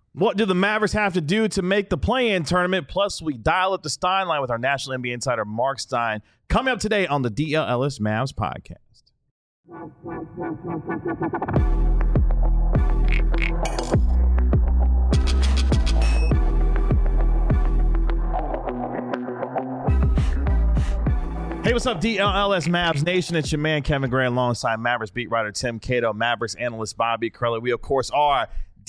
What do the Mavericks have to do to make the play-in tournament? Plus, we dial up the Stein line with our national NBA insider, Mark Stein, coming up today on the DL Ellis Mavs podcast. Hey, what's up, DLLS Mavs Nation? It's your man, Kevin Gray, alongside Mavericks beat writer Tim Cato, Mavericks analyst Bobby Curley. We, of course, are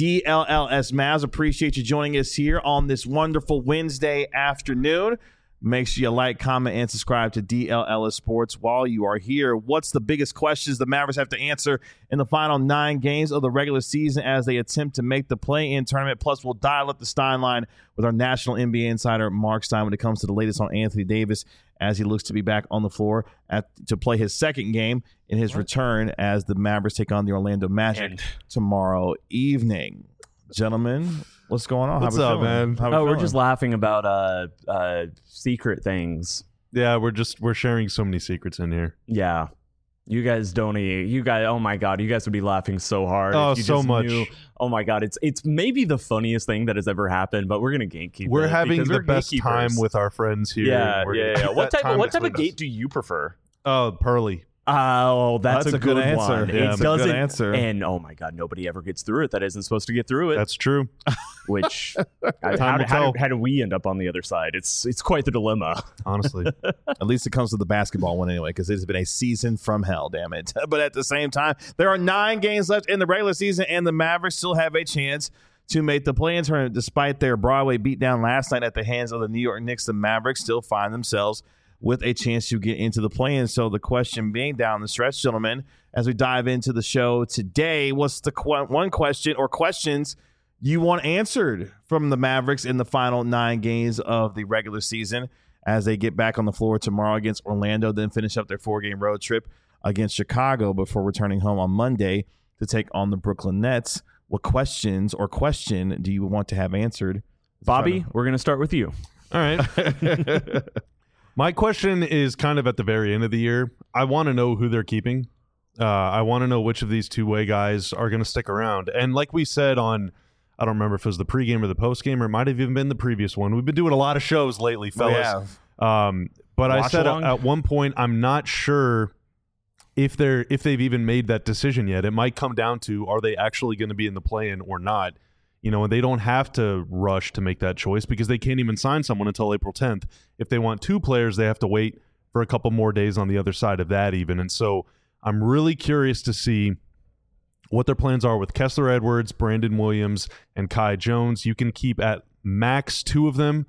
DLLS Mavs. Appreciate you joining us here on this wonderful Wednesday afternoon. Make sure you like, comment, and subscribe to DLLS Sports while you are here. What's the biggest questions the Mavericks have to answer in the final 9 games of the regular season as they attempt to make the play-in tournament? Plus, we'll dial up the Stein line with our national NBA insider, Mark Stein, when it comes to the latest on Anthony Davis as he looks to be back on the floor to play his second game in his return as the Mavericks take on the Orlando Magic tomorrow evening. Gentlemen, what's going on? What's up, man? We're just laughing about secret things. Yeah, we're sharing so many secrets in here. Yeah. You guys, oh my God, you guys would be laughing so hard. Oh, if you so just much. Knew. Oh my God, it's maybe the funniest thing that has ever happened, but we're going to gatekeep We're it having the best time with our friends here. Yeah. What type of gate do you prefer? Oh, Pearly. Oh, that's a good answer. one. Yeah, It doesn't, good answer. And oh my God, nobody ever gets through it that isn't supposed to get through it. That's true. Which Time will tell. how do we end up on the other side? It's quite the dilemma. Honestly. At least it comes to the basketball one anyway, because it has been a season from hell, damn it. But at the same time, there are 9 games left in the regular season, and the Mavericks still have a chance to make the play-in tournament. Despite their Broadway beatdown last night at the hands of the New York Knicks, the Mavericks still find themselves with a chance to get into the play-in. So the question being down the stretch, gentlemen, as we dive into the show today, what's the one question or questions you want answered from the Mavericks in the final 9 games of the regular season as they get back on the floor tomorrow against Orlando, then finish up their 4-game road trip against Chicago before returning home on Monday to take on the Brooklyn Nets? What questions or question do you want to have answered? Bobby, we're going to start with you. All right. My question is kind of at the very end of the year. I want to know who they're keeping. I want to know which of these two-way guys are going to stick around. And like we said on, I don't remember if it was the pregame or the postgame, or it might have even been the previous one. We've been doing a lot of shows lately, fellas. But I said at one point, I'm not sure if they've even made that decision yet. It might come down to, are they actually going to be in the play-in or not? You know, and they don't have to rush to make that choice because they can't even sign someone until April 10th. If they want 2 players, they have to wait for a couple more days on the other side of that even. And so I'm really curious to see what their plans are with Kessler Edwards, Brandon Williams, and Kai Jones. You can keep at max 2 of them.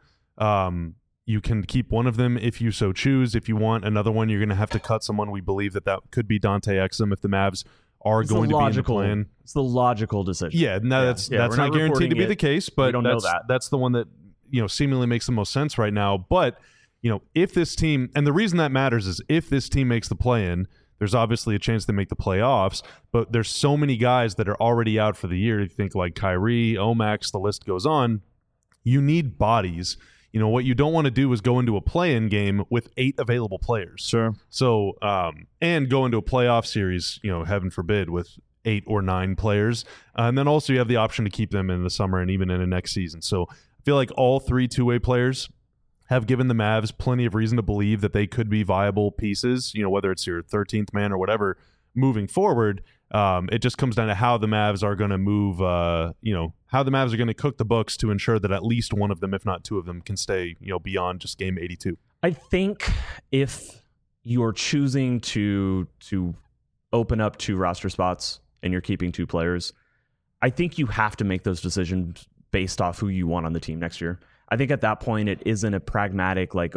You can keep one of them if you so choose. If you want another one, you're going to have to cut someone. We believe that could be Dante Exum if the Mavs are going to be in the plan. It's the logical decision. Yeah, no, that's not guaranteed to be the case, but that's the one that, you know, seemingly makes the most sense right now. But, you know, if this team, and the reason that matters is if this team makes the play-in, there's obviously a chance they make the playoffs, but there's so many guys that are already out for the year. You think like Kyrie, Omax, the list goes on. You need bodies. You know, what you don't want to do is go into a play-in game with 8 available players. Sure. So, and go into a playoff series, you know, heaven forbid, with 8 or 9 players. And then also you have the option to keep them in the summer and even in the next season. So I feel like all 3 two-way players have given the Mavs plenty of reason to believe that they could be viable pieces, you know, whether it's your 13th man or whatever, moving forward. It just comes down to how the Mavs are going to move, how the Mavs are going to cook the books to ensure that at least one of them, if not 2 of them, can stay, you know, beyond just game 82. I think if you're choosing to open up 2 roster spots and you're keeping 2 players, I think you have to make those decisions based off who you want on the team next year. I think at that point, it isn't a pragmatic, like,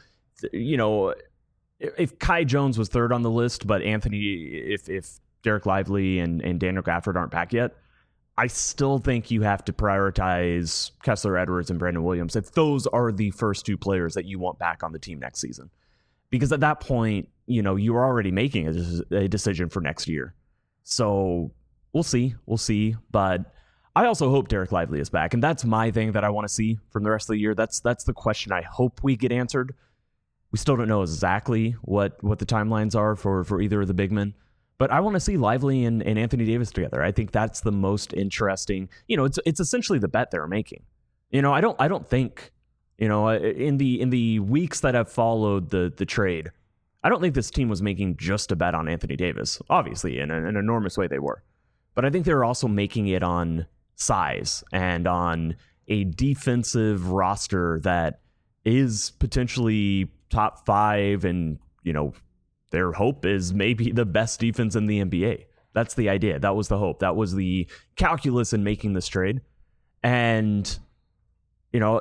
if Kai Jones was 3rd on the list, but if Derek Lively and Daniel Gafford aren't back yet, I still think you have to prioritize Kessler Edwards and Brandon Williams if those are the first 2 players that you want back on the team next season. Because at that point, you know, you're already making a decision for next year. So we'll see. But I also hope Derek Lively is back. And that's my thing that I want to see from the rest of the year. That's the question I hope we get answered. We still don't know exactly what the timelines are for either of the big men. But I want to see Lively and Anthony Davis together. I think that's the most interesting. It's essentially the bet they're making. I don't think, in the weeks that have followed the trade, I don't think this team was making just a bet on Anthony Davis. Obviously, in an enormous way they were. But I think they were also making it on size and on a defensive roster that is potentially top 5 and, their hope is maybe the best defense in the NBA. That's the idea. That was the hope. That was the calculus in making this trade. And, we'll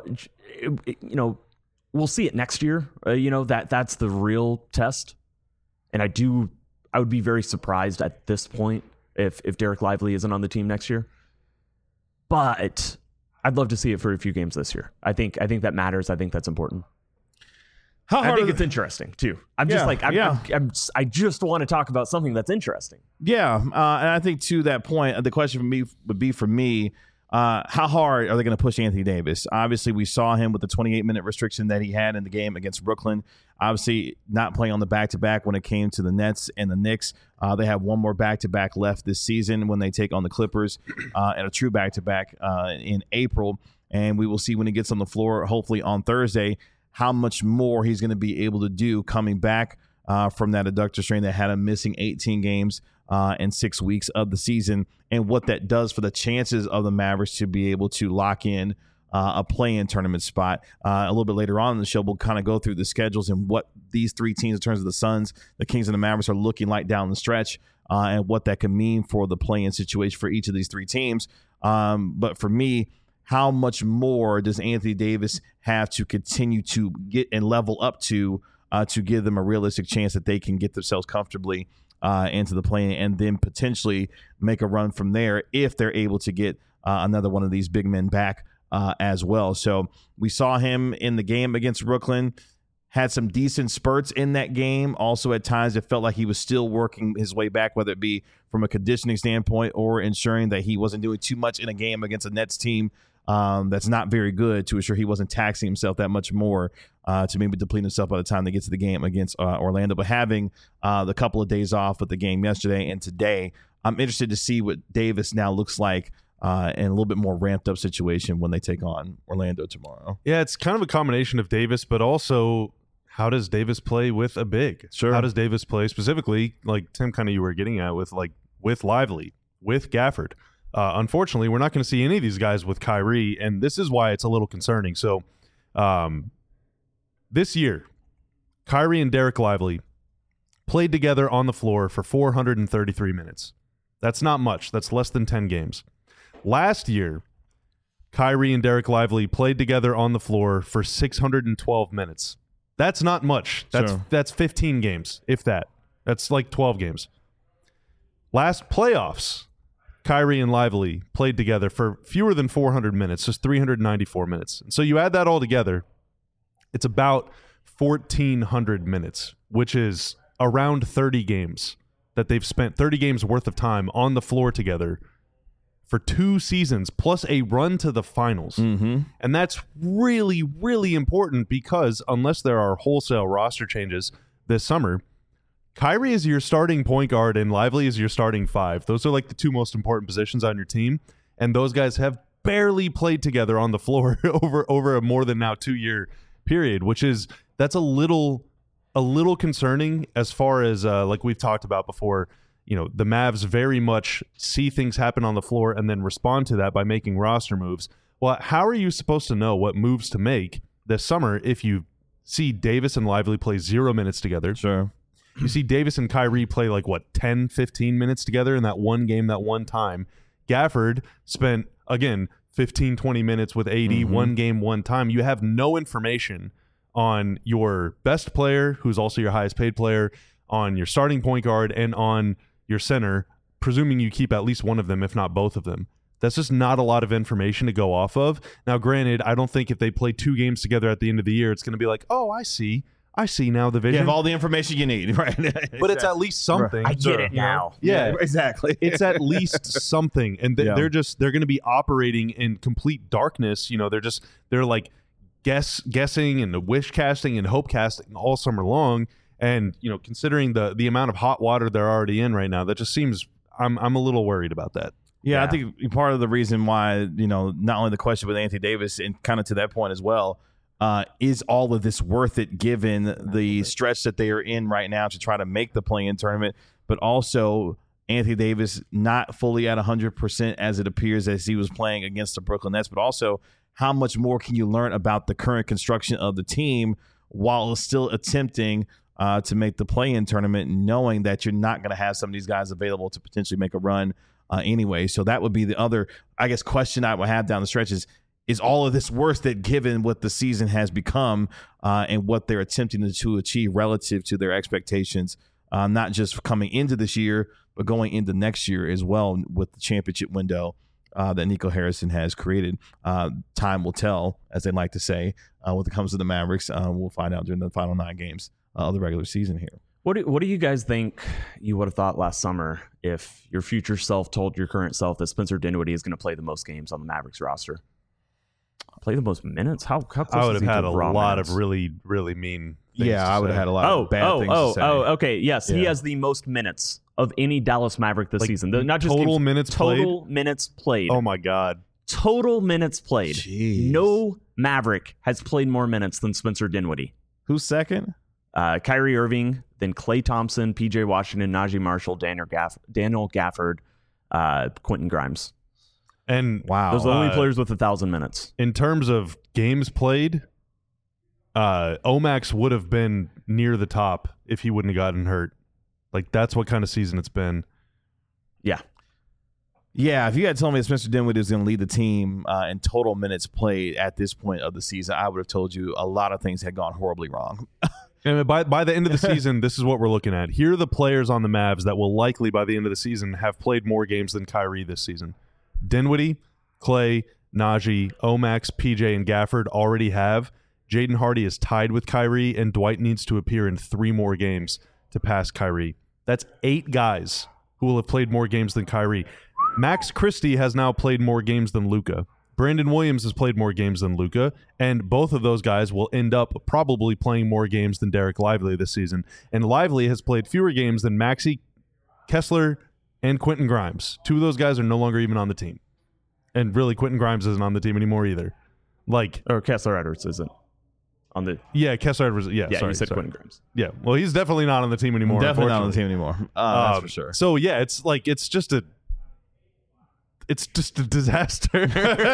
see it next year. That's the real test. And I would be very surprised at this point if Derek Lively isn't on the team next year. But I'd love to see it for a few games this year. I think that matters. I think that's important. I think it's interesting too. I just want to talk about something that's interesting. Yeah, and I think to that point, the question for me would be how hard are they going to push Anthony Davis? Obviously, we saw him with the 28-minute restriction that he had in the game against Brooklyn. Obviously, not playing on the back-to-back when it came to the Nets and the Knicks. They have one more back-to-back left this season when they take on the Clippers and a true back-to-back in April. And we will see when he gets on the floor, hopefully on Thursday, how much more he's going to be able to do coming back from that adductor strain that had him missing 18 games in 6 weeks of the season, and what that does for the chances of the Mavericks to be able to lock in a play-in tournament spot. A little bit later on in the show, we'll kind of go through the schedules and what these three teams in terms of the Suns, the Kings, and the Mavericks are looking like down the stretch and what that can mean for the play-in situation for each of these three teams. But for me, how much more does Anthony Davis have to continue to get and level up to give them a realistic chance that they can get themselves comfortably into the play and then potentially make a run from there if they're able to get another one of these big men back as well. So we saw him in the game against Brooklyn, had some decent spurts in that game. Also at times it felt like he was still working his way back, whether it be from a conditioning standpoint or ensuring that he wasn't doing too much in a game against a Nets team that's not very good, to ensure he wasn't taxing himself that much more to maybe deplete himself by the time they get to the game against Orlando. But having the couple of days off with the game yesterday and today, I'm interested to see what Davis now looks like in a little bit more ramped up situation when they take on Orlando tomorrow. Yeah, it's kind of a combination of Davis, but also how does Davis play with a big? Sure. How does Davis play specifically, like Tim kind of you were getting at, with Lively, with Gafford? Unfortunately, we're not going to see any of these guys with Kyrie, and this is why it's a little concerning. So this year, Kyrie and Derek Lively played together on the floor for 433 minutes. That's not much. That's less than 10 games. Last year, Kyrie and Derek Lively played together on the floor for 612 minutes. That's not much. That's 15 games, if that. That's like 12 games. Last playoffs, Kyrie and Lively played together for fewer than 400 minutes, just 394 minutes. So you add that all together, it's about 1,400 minutes, which is around 30 games that they've spent, 30 games worth of time on the floor together for 2 seasons, plus a run to the finals. Mm-hmm. And that's really, really important because unless there are wholesale roster changes this summer, Kyrie is your starting point guard and Lively is your starting 5. Those are like the 2 most important positions on your team. And those guys have barely played together on the floor over a more than now 2-year period, that's a little concerning as far as like we've talked about before. The Mavs very much see things happen on the floor and then respond to that by making roster moves. Well, how are you supposed to know what moves to make this summer if you see Davis and Lively play 0 minutes together? Sure. You see Davis and Kyrie play 10, 15 minutes together in that one game, that one time. Gafford spent, again, 15, 20 minutes with AD, one game, one time. You have no information on your best player, who's also your highest paid player, on your starting point guard, and on your center, presuming you keep at least one of them, if not both of them. That's just not a lot of information to go off of. Now, granted, I don't think if they play 2 games together at the end of the year, it's going to be like, oh, I see now the vision. You have all the information you need, right? But it's at least something. I get it now. Yeah, exactly. It's at least something. And they're going to be operating in complete darkness. They're like guessing and wish casting and hope casting all summer long. And considering the amount of hot water they're already in right now, that just seems I'm a little worried about that. Yeah, I think part of the reason why, not only the question with Anthony Davis and kind of to that point as well, is all of this worth it given the stretch that they are in right now to try to make the play-in tournament, but also Anthony Davis not fully at 100% as it appears as he was playing against the Brooklyn Nets, but also how much more can you learn about the current construction of the team while still attempting to make the play-in tournament, knowing that you're not going to have some of these guys available to potentially make a run anyway. So that would be the other, I guess, question I would have down the stretch is all of this worth it given what the season has become and what they're attempting to achieve relative to their expectations, not just coming into this year, but going into next year as well with the championship window that Nico Harrison has created. Time will tell, as they like to say, when it comes to the Mavericks. We'll find out during the final 9 games of the regular season here. What do you guys think you would have thought last summer if your future self told your current self that Spencer Dinwiddie is going to play the most games on the Mavericks roster? Play the most minutes? How close I would have had a lot minutes? of really, really mean things to I would have say. had a lot of bad things to say. Okay. Yes, he has the most minutes of any Dallas Maverick this season. Not just total games, minutes played? Total minutes played. Oh, my God. Total minutes played. Jeez. No Maverick has played more minutes than Spencer Dinwiddie. Who's second? Kyrie Irving, then Klay Thompson, P.J. Washington, Najee Marshall, Daniel Gafford, Quentin Grimes. And wow, Those are the only players with 1,000 minutes. In terms of games played, Omax would have been near the top if he wouldn't have gotten hurt. Like, that's what kind of season it's been. Yeah. Yeah, if you had told me that Spencer Dinwiddie was going to lead the team in total minutes played at this point of the season, I would have told you a lot of things had gone horribly wrong. And by the end of the season, this is what we're looking at. Here are the players on the Mavs that will likely, by the end of the season, have played more games than Kyrie this season. Dinwiddie, Klay, Najee, Omax, PJ, and Gafford already have. Jaden Hardy is tied with Kyrie, and Dwight needs to appear in 3 more games to pass Kyrie. That's 8 guys who will have played more games than Kyrie. Max Christie has now played more games than Luka. Brandon Williams has played more games than Luka, and both of those guys will end up probably playing more games than Derek Lively this season. And Lively has played fewer games than Maxey, Kessler, and Quentin Grimes. 2 of those guys are no longer even on the team. And really, Quentin Grimes isn't on the team anymore either. Or Kessler Edwards isn't on the... Yeah, Kessler Edwards. Yeah, you said Quentin Grimes. Yeah, well, he's definitely not on the team anymore. Definitely not on the team anymore. That's for sure. So, yeah, it's just a disaster.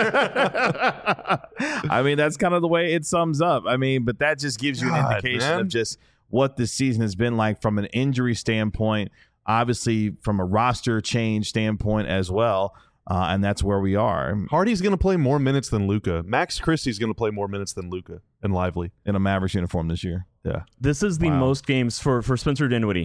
I mean, that's kind of the way it sums up. I mean, but that just gives you an indication of just what this season has been like from an injury standpoint, obviously from a roster change standpoint as well. And that's where we are. Hardy's going to play more minutes than Luka. Max Christie's going to play more minutes than Luka and Lively in a Mavericks uniform this year. Yeah. This is the most games for Spencer Dinwiddie.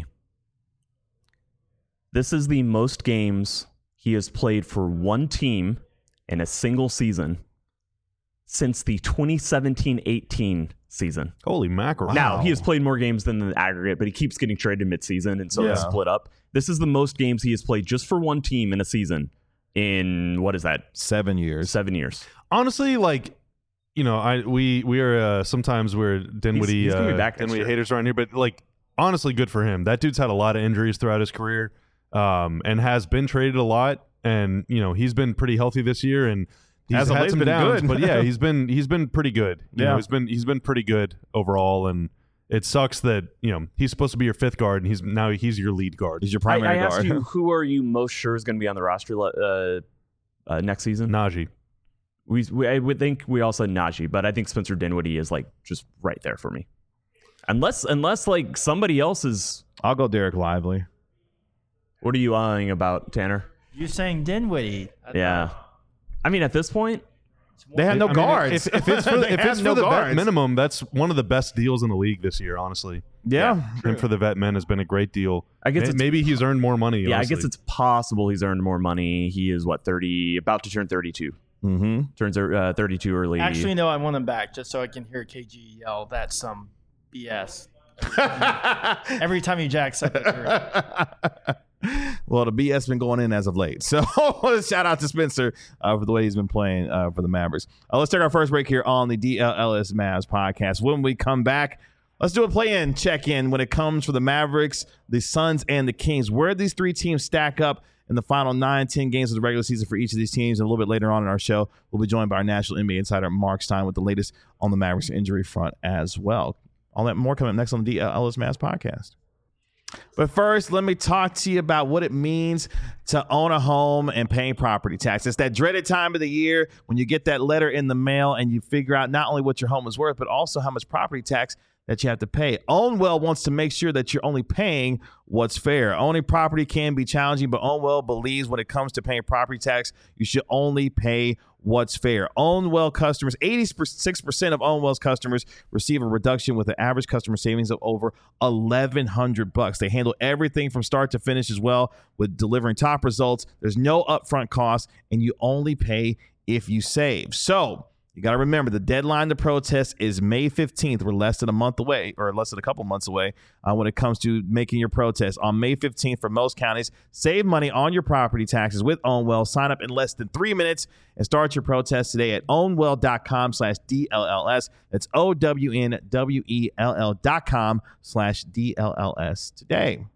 This is the most games he has played for one team in a single season since the 2017-18 season. Holy mackerel. Now, he has played more games than the aggregate, but he keeps getting traded midseason, and so it's split up. This is the most games he has played just for one team in a season in, what is that? 7 years. 7 years. Honestly, like, we are sometimes we're Dinwiddie, he's gonna be back Dinwiddie haters around here, but like, honestly, good for him. That dude's had a lot of injuries throughout his career, and has been traded a lot, and he's been pretty healthy this year, and he's had some downs, good. But yeah, he's been pretty good. You know, he's been pretty good overall, and it sucks that he's supposed to be your 5th guard, and he's your lead guard. He's your primary guard. I asked you, who are you most sure is going to be on the roster next season? Najee. I would think we all said Najee, but I think Spencer Dinwiddie is like just right there for me. Unless like somebody else is. I'll go Derek Lively. What are you eyeing about, Tanner? You're saying Dinwiddie. Yeah. I mean, at this point, they have no guards. If it's for the vet minimum, that's one of the best deals in the league this year, honestly. Yeah. And for the vet men has been a great deal. I guess maybe he's earned more money. Yeah, honestly. I guess it's possible he's earned more money. He is, 30, about to turn 32. Mm-hmm. Turns 32 early. Actually, no, I want him back just so I can hear KG yell, "That's some BS." Every time he jacks up the Well, the BS been going in as of late. So shout out to Spencer for the way he's been playing for the Mavericks. Let's take our first break here on the DLLS Mavs podcast. When we come back, Let's do a play-in check-in when it comes for the Mavericks, the Suns, and the Kings. Where these three teams stack up in the final 9-10 games of the regular season for each of these teams. And a little bit later on in our show, we'll be joined by our national NBA insider, Mark Stein, with the latest on the Mavericks injury front as well. All that more coming up next on the DLS Mavs podcast. But first, let me talk to you about what it means to own a home and paying property tax. It's that dreaded time of the year when you get that letter in the mail and you figure out not only what your home is worth, but also how much property tax that you have to pay. Ownwell wants to make sure that you're only paying what's fair. Owning property can be challenging, but Ownwell believes when it comes to paying property tax, you should only pay what's fair. Ownwell customers, 86% of Ownwell's customers receive a reduction with an average customer savings of over $1,100. They handle everything from start to finish as well with delivering top results. There's no upfront cost, and you only pay if you save. So you got to remember the deadline to protest is May 15th. We're less than a month away, or less than a couple months away when it comes to making your protest. On May 15th for most counties, save money on your property taxes with Ownwell. Sign up in less than 3 minutes and start your protest today at ownwell.com/DLLS. That's OWNWELL.com/DLLS today.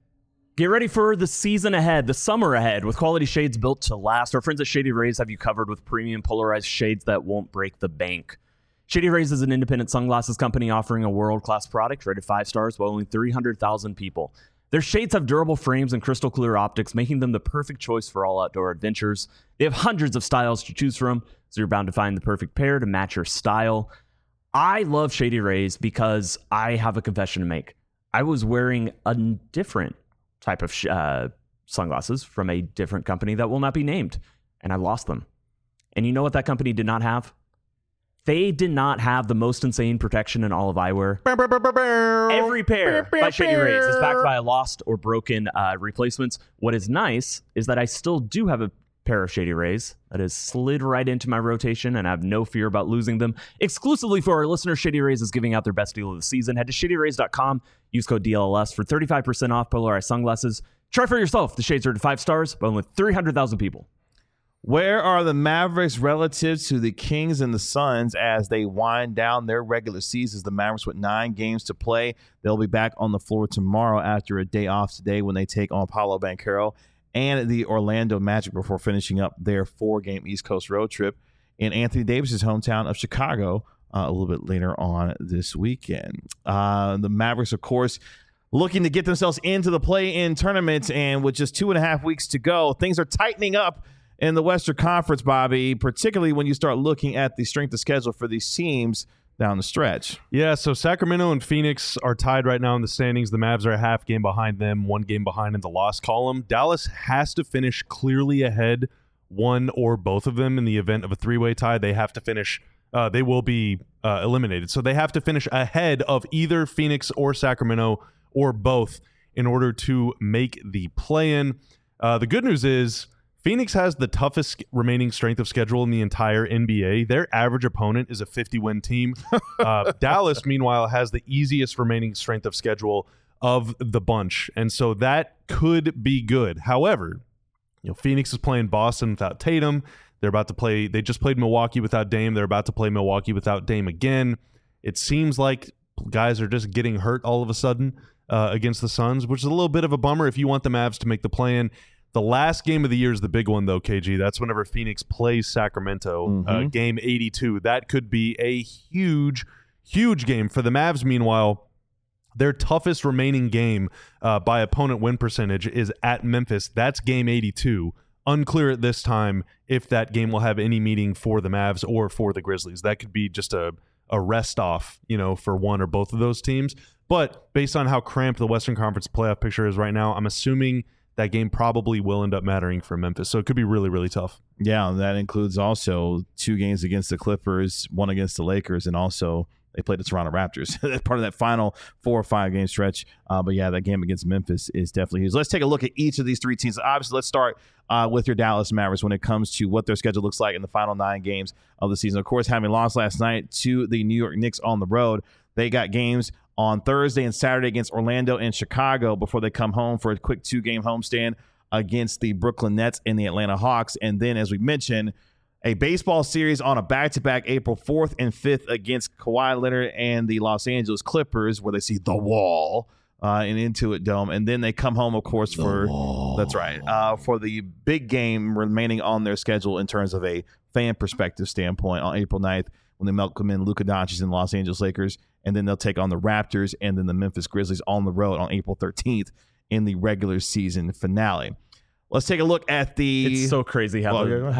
Get ready for the season ahead, the summer ahead, with quality shades built to last. Our friends at Shady Rays have you covered with premium polarized shades that won't break the bank. Shady Rays is an independent sunglasses company offering a world-class product rated 5 stars by only 300,000 people. Their shades have durable frames and crystal clear optics, making them the perfect choice for all outdoor adventures. They have hundreds of styles to choose from, so you're bound to find the perfect pair to match your style. I love Shady Rays because I have a confession to make. I was wearing a different type of sunglasses from a different company that will not be named, and I lost them. And you know what that company did not have? They did not have the most insane protection in all of eyewear. Every pair by Shady Rays is backed by a lost or broken replacements. What is nice is that I still do have a pair of Shady Rays that has slid right into my rotation, and I have no fear about losing them. Exclusively for our listeners, Shady Rays is giving out their best deal of the season. Head to shadyrays.com, use code DLLS for 35% off polarized sunglasses. Try for yourself. The shades are at 5 stars, but only 300,000 people. Where are the Mavericks relative to the Kings and the Suns as they wind down their regular seasons? The Mavericks with 9 games to play. They'll be back on the floor tomorrow after a day off today when they take on Paolo Banchero and the Orlando Magic before finishing up their 4-game East Coast road trip in Anthony Davis's hometown of Chicago a little bit later on this weekend. The Mavericks, of course, looking to get themselves into the play-in tournament, and with just 2.5 weeks to go, things are tightening up in the Western Conference, Bobby, particularly when you start looking at the strength of schedule for these teams down the stretch. Yeah, so Sacramento and Phoenix are tied right now in the standings. The Mavs are a half game behind them, 1 game behind in the loss column. Dallas has to finish clearly ahead, one or both of them. In the event of a 3-way tie, they have to finish, they will be eliminated. So they have to finish ahead of either Phoenix or Sacramento or both in order to make the play-in. The good news is Phoenix has the toughest remaining strength of schedule in the entire NBA. Their average opponent is a 50-win team. Dallas, meanwhile, has the easiest remaining strength of schedule of the bunch, and so that could be good. However, Phoenix is playing Boston without Tatum. They're about to play. They just played Milwaukee without Dame. They're about to play Milwaukee without Dame again. It seems like guys are just getting hurt all of a sudden against the Suns, which is a little bit of a bummer if you want the Mavs to make the play-in. The last game of the year is the big one, though, KG. That's whenever Phoenix plays Sacramento, game 82. That could be a huge, huge game. For the Mavs, meanwhile, their toughest remaining game by opponent win percentage is at Memphis. That's game 82. Unclear at this time if that game will have any meaning for the Mavs or for the Grizzlies. That could be just a rest off, for one or both of those teams. But based on how cramped the Western Conference playoff picture is right now, I'm assuming that game probably will end up mattering for Memphis. So it could be really, really tough. Yeah, that includes also 2 games against the Clippers, 1 against the Lakers, and also they played the Toronto Raptors. That's part of that final 4 or 5 game stretch. But yeah, that game against Memphis is definitely huge. Let's take a look at each of these 3 teams. Obviously, let's start with your Dallas Mavericks when it comes to what their schedule looks like in the final 9 games of the season. Of course, having lost last night to the New York Knicks on the road, they got games on Thursday and Saturday against Orlando and Chicago before they come home for a quick 2-game homestand against the Brooklyn Nets and the Atlanta Hawks. And then, as we mentioned, a baseball series on a back-to-back April 4th and 5th against Kawhi Leonard and the Los Angeles Clippers, where they see the Wall in Intuit Dome, and then they come home, of course, for the big game remaining on their schedule in terms of a fan perspective standpoint on April 9th when they welcome in Luka Doncic and Los Angeles Lakers, and then they'll take on the Raptors and then the Memphis Grizzlies on the road on April 13th in the regular season finale. Let's take a look at the. It's so crazy how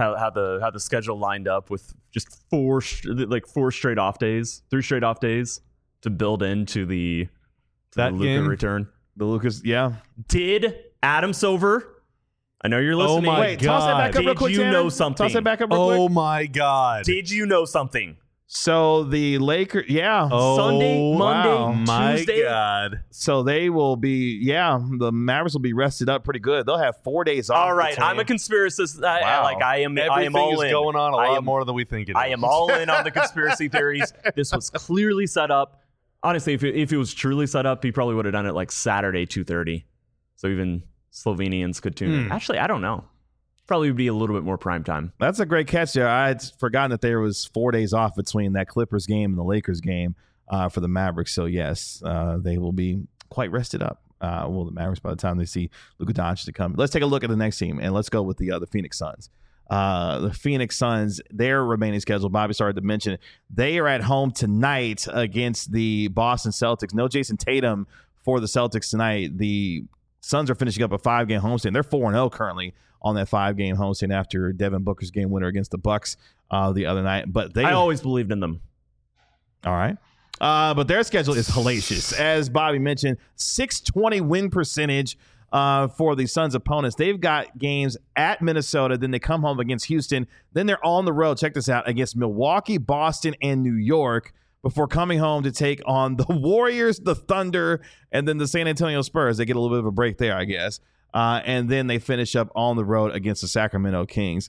the schedule lined up with just 4 straight off days, 3 straight off days to build into the Luka return. The Lucas, yeah. Did Adam Silver? I know you're listening. Oh my Wait, toss that back up real quick. Did you know something? Toss that back up real quick. Oh my God! Did you know something? So the Lakers, yeah. Oh, Sunday, Monday, my Tuesday. God! So they will be, the Mavericks will be rested up pretty good. They'll have 4 days off. All right, I'm a conspiracist. I am Everything all is in. going on a lot more than we think it is. I am all in on the conspiracy theories. This was clearly set up. Honestly, if it was truly set up, he probably would have done it like Saturday 2:30. So even Slovenians could tune in. Actually, I don't know. Probably would be a little bit more prime time. That's a great catch there. I'd forgotten that there was 4 days off between that Clippers game and the Lakers game for the Mavericks. So, yes, they will be quite rested up. The Mavericks, by the time they see Luka Doncic to come. Let's take a look at the next team, and let's go with the Phoenix Suns. The Phoenix Suns, their remaining schedule, Bobby started to mention, they are at home tonight against the Boston Celtics. No Jason Tatum for the Celtics tonight. The Suns are finishing up a 5-game homestand. They're 4-0 currently on that 5-game homestand after Devin Booker's game winner against the Bucks the other night. But I always believed in them. All right. But their schedule is hellacious. As Bobby mentioned, 620 win percentage for the Suns' opponents. They've got games at Minnesota, then they come home against Houston, then they're on the road, check this out, against Milwaukee, Boston, and New York before coming home to take on the Warriors, the Thunder, and then the San Antonio Spurs. They get a little bit of a break there, I guess. And then they finish up on the road against the Sacramento Kings.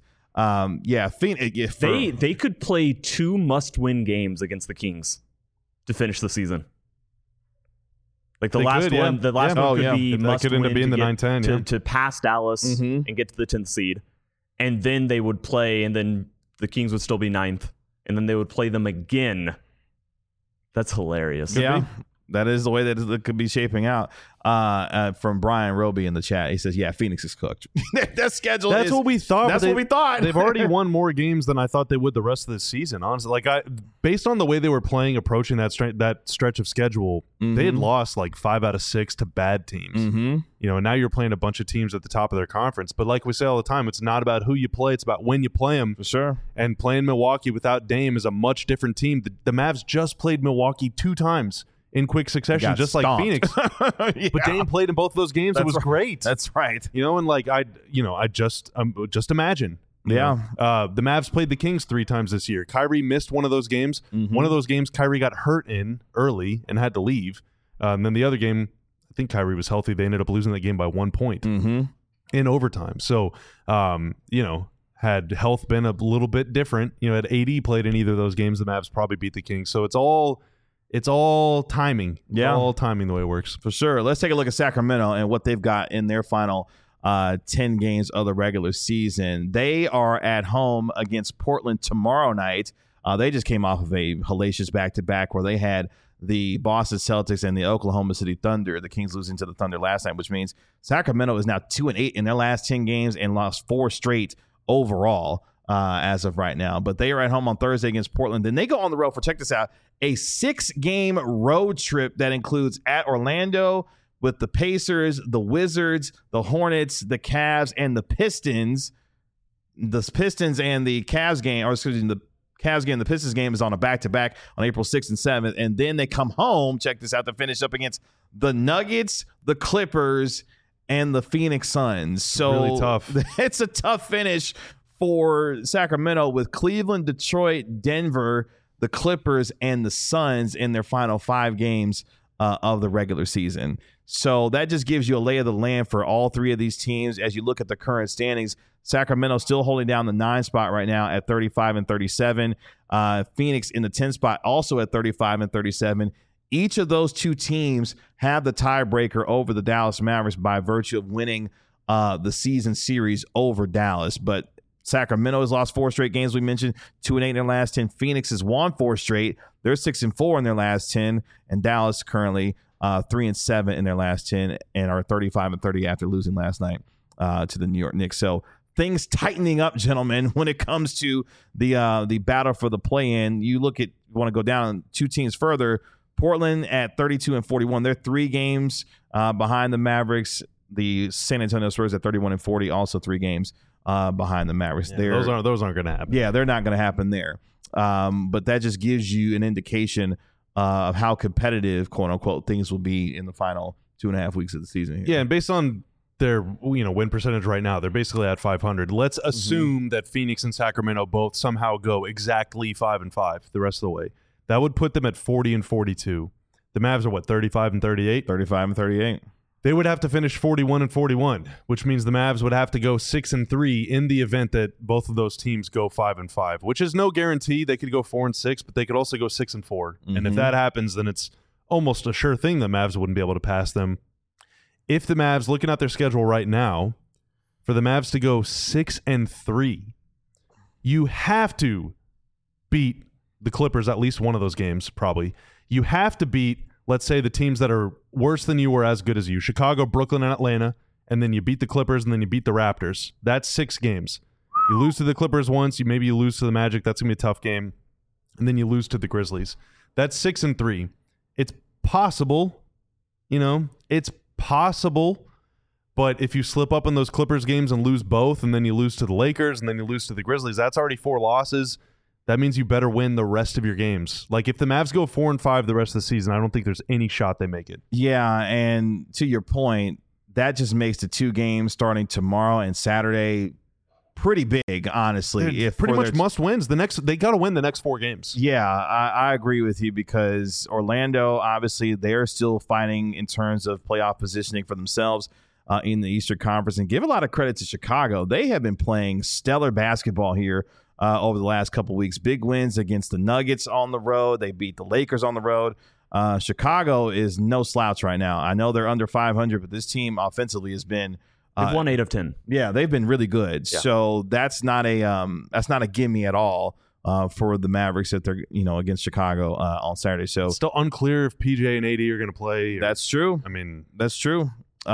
They could play 2 must-win games against the Kings to finish the season. Like the last one could be must could end up being the 9-10 to pass Dallas and get to the 10th seed, and then they would play, and then the Kings would still be 9th, and then they would play them again. That's hilarious. Yeah, that is the way that it could be shaping out. From Brian Roby in the chat, he says, "Yeah, Phoenix is cooked." That schedule. That's what we thought. That's what we thought. They've already won more games than I thought they would the rest of the season. Honestly, based on the way they were playing, approaching that stretch of schedule, they had lost like 5 out of 6 to bad teams. And now you're playing a bunch of teams at the top of their conference. But like we say all the time, it's not about who you play; it's about when you play them. For sure. And playing Milwaukee without Dame is a much different team. The Mavs just played Milwaukee 2 times in quick succession, just stomped. Like Phoenix. But Dame played in both of those games. It was great. That's right. I just imagine. Yeah. The Mavs played the Kings 3 times this year. Kyrie missed one of those games. One of those games, Kyrie got hurt in early and had to leave. And then the other game, I think Kyrie was healthy. They ended up losing that game by 1 point in overtime. So, had health been a little bit different, had AD played in either of those games, the Mavs probably beat the Kings. So it's all timing. Yeah. All timing the way it works. For sure. Let's take a look at Sacramento and what they've got in their final 10 games of the regular season. They are at home against Portland tomorrow night. They just came off of a hellacious back-to-back where they had the Boston Celtics and the Oklahoma City Thunder. The Kings losing to the Thunder last night, which means Sacramento is now 2-8 in their last 10 games and lost 4 straight overall as of right now. But they are at home on Thursday against Portland. Then they go on the road for, check this out, a 6-game road trip that includes at Orlando with the Pacers, the Wizards, the Hornets, the Cavs, and the Pistons. The Pistons and the Cavs game, or excuse me, the Cavs game, the Pistons game is on a back-to-back on April 6th and 7th. And then they come home, check this out, to finish up against the Nuggets, the Clippers, and the Phoenix Suns. So really tough. It's a tough finish for Sacramento with Cleveland, Detroit, Denver, the Clippers, and the Suns in their final 5 games of the regular season. So that just gives you a lay of the land for all 3 of these teams. As you look at the current standings, Sacramento still holding down the 9 spot right now at 35-37. Phoenix in the 10 spot also at 35-37. Each of those 2 teams have the tiebreaker over the Dallas Mavericks by virtue of winning the season series over Dallas. But Sacramento has lost 4 straight games. We mentioned 2-8 in their last 10. Phoenix has won 4 straight. They're 6-4 in their last 10, and Dallas currently 3-7 in their last 10 and are 35-30 after losing last night to the New York Knicks. So things tightening up, gentlemen, when it comes to the battle for the play-in. You want to go down 2 teams further. Portland at 32-41. They're 3 games behind the Mavericks. The San Antonio Spurs at 31-40, also 3 games behind the Mavericks. Yeah, those aren't going to happen. Yeah, they're not going to happen there. But that just gives you an indication of how competitive, quote unquote, things will be in the final 2.5 weeks of the season here. Yeah, and based on their win percentage right now, they're basically at 500. Let's assume that Phoenix and Sacramento both somehow go exactly 5-5 the rest of the way. That would put them at 40-42. The Mavs are what, 35-38? 35-38. They would have to finish 41-41, which means the Mavs would have to go 6-3 in the event that both of those teams go 5-5, which is no guarantee. They could go 4-6, but they could also go 6-4. And if that happens, then it's almost a sure thing the Mavs wouldn't be able to pass them. If the Mavs, looking at their schedule right now, for the Mavs to go 6-3, you have to beat the Clippers at least one of those games, probably. You have to beat, let's say, the teams that are worse than you or as good as you. Chicago, Brooklyn, and Atlanta. And then you beat the Clippers, and then you beat the Raptors. That's 6 games. You lose to the Clippers once. Maybe you lose to the Magic. That's going to be a tough game. And then you lose to the Grizzlies. That's 6-3. It's possible. It's possible. But if you slip up in those Clippers games and lose both, and then you lose to the Lakers, and then you lose to the Grizzlies, that's already 4 losses. That means you better win the rest of your games. Like, if the Mavs go 4-5 the rest of the season, I don't think there's any shot they make it. Yeah, and to your point, that just makes the 2 games starting tomorrow and Saturday pretty big, honestly. If pretty much must wins. They got to win the next 4 games. Yeah, I agree with you, because Orlando, obviously, they're still fighting in terms of playoff positioning for themselves in the Eastern Conference. And give a lot of credit to Chicago. They have been playing stellar basketball here over the last couple of weeks. Big wins against the Nuggets on the road. They beat the Lakers on the road. Chicago is no slouch right now. I know they're under 500, but this team offensively has been they've won 8 of 10. Yeah, they've been really good. Yeah. So that's not a gimme at all for the Mavericks that they're against Chicago on Saturday. So it's still unclear if PJ and AD are going to play. That's true. I mean, that's true.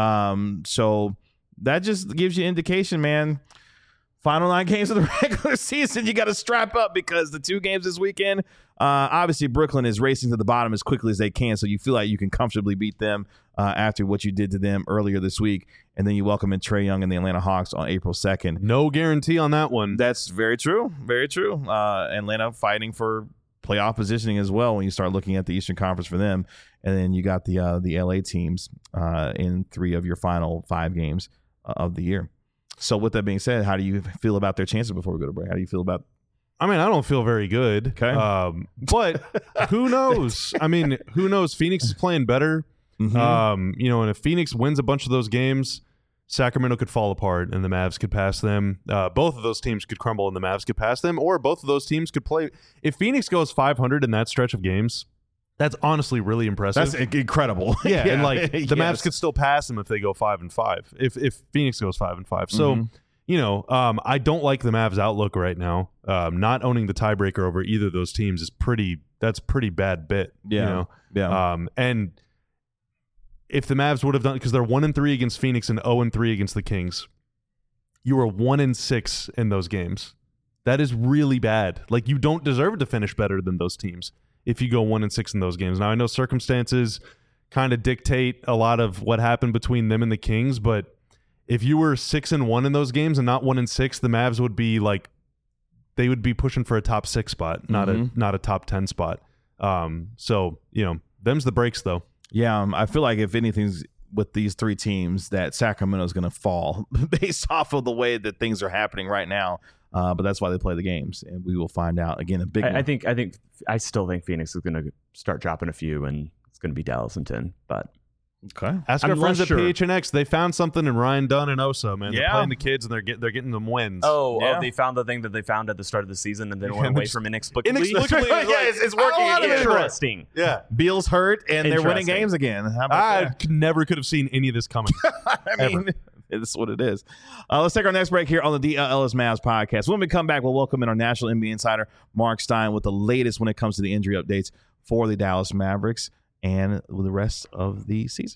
So that just gives you indication, man. Final 9 games of the regular season, you got to strap up, because the 2 games this weekend, obviously Brooklyn is racing to the bottom as quickly as they can, so you feel like you can comfortably beat them after what you did to them earlier this week, and then you welcome in Trae Young and the Atlanta Hawks on April 2nd. No guarantee on that one. That's very true. Very true. Atlanta fighting for playoff positioning as well when you start looking at the Eastern Conference for them, and then you got the LA teams in 3 of your final 5 games of the year. So with that being said, how do you feel about their chances before we go to break? How do you feel about? I mean, I don't feel very good. Okay. But who knows? I mean, who knows? Phoenix is playing better. And if Phoenix wins a bunch of those games, Sacramento could fall apart and the Mavs could pass them. Both of those teams could crumble and the Mavs could pass them, or both of those teams could play. If Phoenix goes 500 in that stretch of games, that's honestly really impressive. That's incredible. Yeah, and like the Mavs could still pass them if they go 5-5. If Phoenix goes 5-5, so I don't like the Mavs' outlook right now. Not owning the tiebreaker over either of those teams is pretty bad bit. Yeah, and if the Mavs would have done, because they're 1-3 against Phoenix and 0-3 against the Kings, you were 1-6 in those games. That is really bad. Like, you don't deserve to finish better than those teams if you go 1-6 in those games. Now, I know circumstances kind of dictate a lot of what happened between them and the Kings, but if you were 6-1 in those games and not 1-6, the Mavs would be like, they would be pushing for a top 6 spot, not a top 10 spot. So them's the breaks though. Yeah, I feel like if anything's with these 3 teams, that Sacramento's going to fall based off of the way that things are happening right now. But that's why they play the games, and we will find out. Again, a big. I still think Phoenix is going to start dropping a few, and it's going to be Dallas in 10. But okay, ask our friends at PHNX. They found something in Ryan Dunn and Osa. Man, they're playing the kids, and they're getting them wins. Oh, they found the thing that they found at the start of the season, and then went away from inexplicably. It's working. Interesting. Yeah, Beal's hurt, and they're winning games again. How about never could have seen any of this coming. I mean, It's what it is. Let's take our next break here on the DLS Mavs podcast. When we come back, we'll welcome in our national NBA insider, Mark Stein, with the latest when it comes to the injury updates for the Dallas Mavericks and the rest of the season.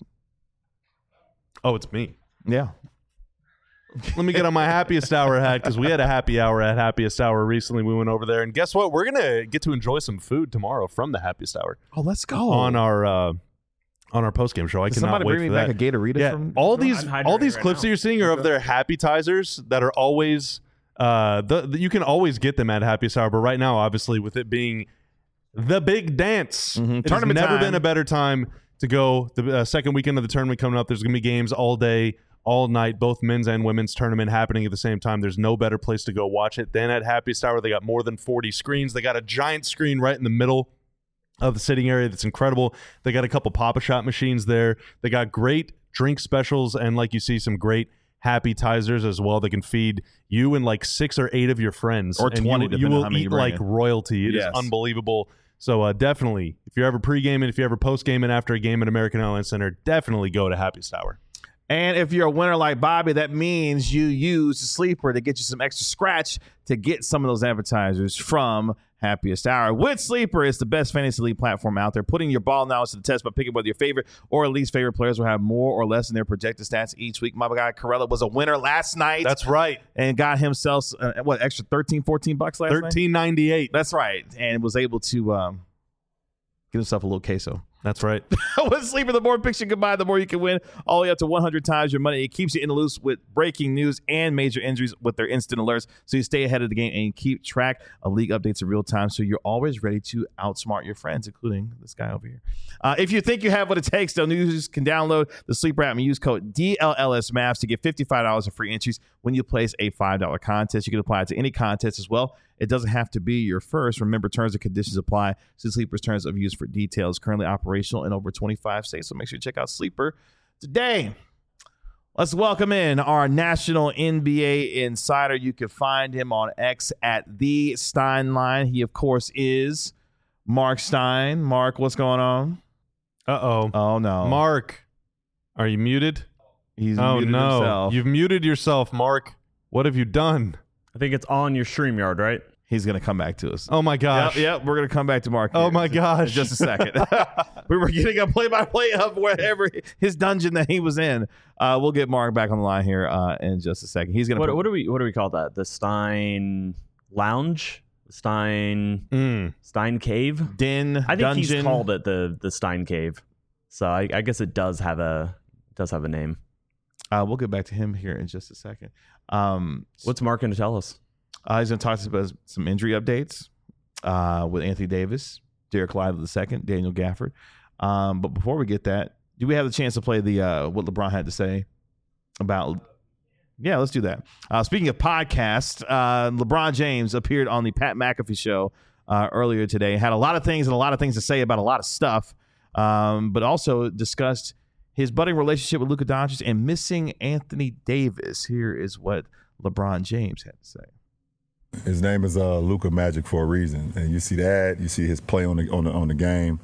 Oh, it's me. Yeah. Let me get on my happiest hour hat because we had a happy hour at Happiest Hour recently. We went over there, and guess what? We're gonna get to enjoy some food tomorrow from the Happiest Hour Oh, let's go. on our post game show. I Did cannot somebody wait bring me for back that. a Gatorade Yeah, from all these hydrated right clips now. that you're seeing are of their Happytizers that are always you can always get them at Happiest Hour, but right now, obviously, with it being the big dance, it has Tournament never time. been a better time to go. The second weekend of the tournament coming up. There's gonna be games all day, all night, both men's and women's tournament happening at the same time. There's no better place to go watch it than at Happiest Hour. They got more than 40 screens. They got a giant screen right in the middle of the sitting area that's incredible. They got a couple Pop-A-Shot machines there. They got great drink specials and, like you see, some great Happytizers as well that can feed you and like 6 or 8 of your friends. Or And 20, you depending on will how many eat you bring like in. royalty. It is Yes. unbelievable. So definitely, if you're ever pre-gaming, if you're ever post-gaming after a game at American Airlines Center, definitely go to Happiest Hour. And if you're a winner like Bobby, that means you use the Sleeper to get you some extra scratch to get some of those advertisers from Happiest Hour. With Sleeper, it's the best fantasy league platform out there, putting your ball knowledge to the test by picking whether your favorite or least favorite players will have more or less in their projected stats each week. My guy Corella was a winner last night. That's right. and got himself, extra $13-14 last night? $13.98. That's right. And was able to get himself a little queso. That's right. With Sleeper, the more picks you can buy, the more you can win. All the way up to 100 times your money. It keeps you in the loop with breaking news and major injuries with their instant alerts, so you stay ahead of the game and keep track of league updates in real time, so you're always ready to outsmart your friends, including this guy over here. If you think you have what it takes, though, users can download the Sleeper app and use code DLLSMAVs to get $55 in free entries when you place a $5 contest. You can apply it to any contest as well. It doesn't have to be your first. Remember, terms and conditions apply. See Sleeper's terms of use for details. Currently operational in over 25 states, so make sure you check out Sleeper today. Let's welcome in our national NBA insider. You can find him on X at the Steinline. He, of course, is Mark Stein. Mark, what's going on? Uh-oh. Oh, no. Mark, are you muted? He's Oh, muted no. himself. You've muted yourself, Mark. What have you done? I think it's on your StreamYard, right? He's going to come back to us. Oh, my gosh. Yep, we're going to come back to Mark. Oh, here my in gosh. just a second. We were getting a play-by-play of wherever his dungeon that he was in. We'll get Mark back on the line here in just a second. He's going to What do we call that? The Stein Lounge? Stein Cave? Den I think dungeon. he's called it the Stein Cave. So I guess it does have a name. We'll get back to him here in just a second. What's Mark going to tell us? He's going to talk to us about some injury updates with Anthony Davis, Derek Lively II, Daniel Gafford. But before we get that, do we have the chance to play the what LeBron had to say about? Yeah, let's do that. Speaking of podcasts, LeBron James appeared on the Pat McAfee show earlier today. Had a lot of things to say about a lot of stuff, but also discussed his budding relationship with Luka Doncic and missing Anthony Davis. Here is what LeBron James had to say. His name is Luka Magic for a reason, and you see that. You see his play on the game.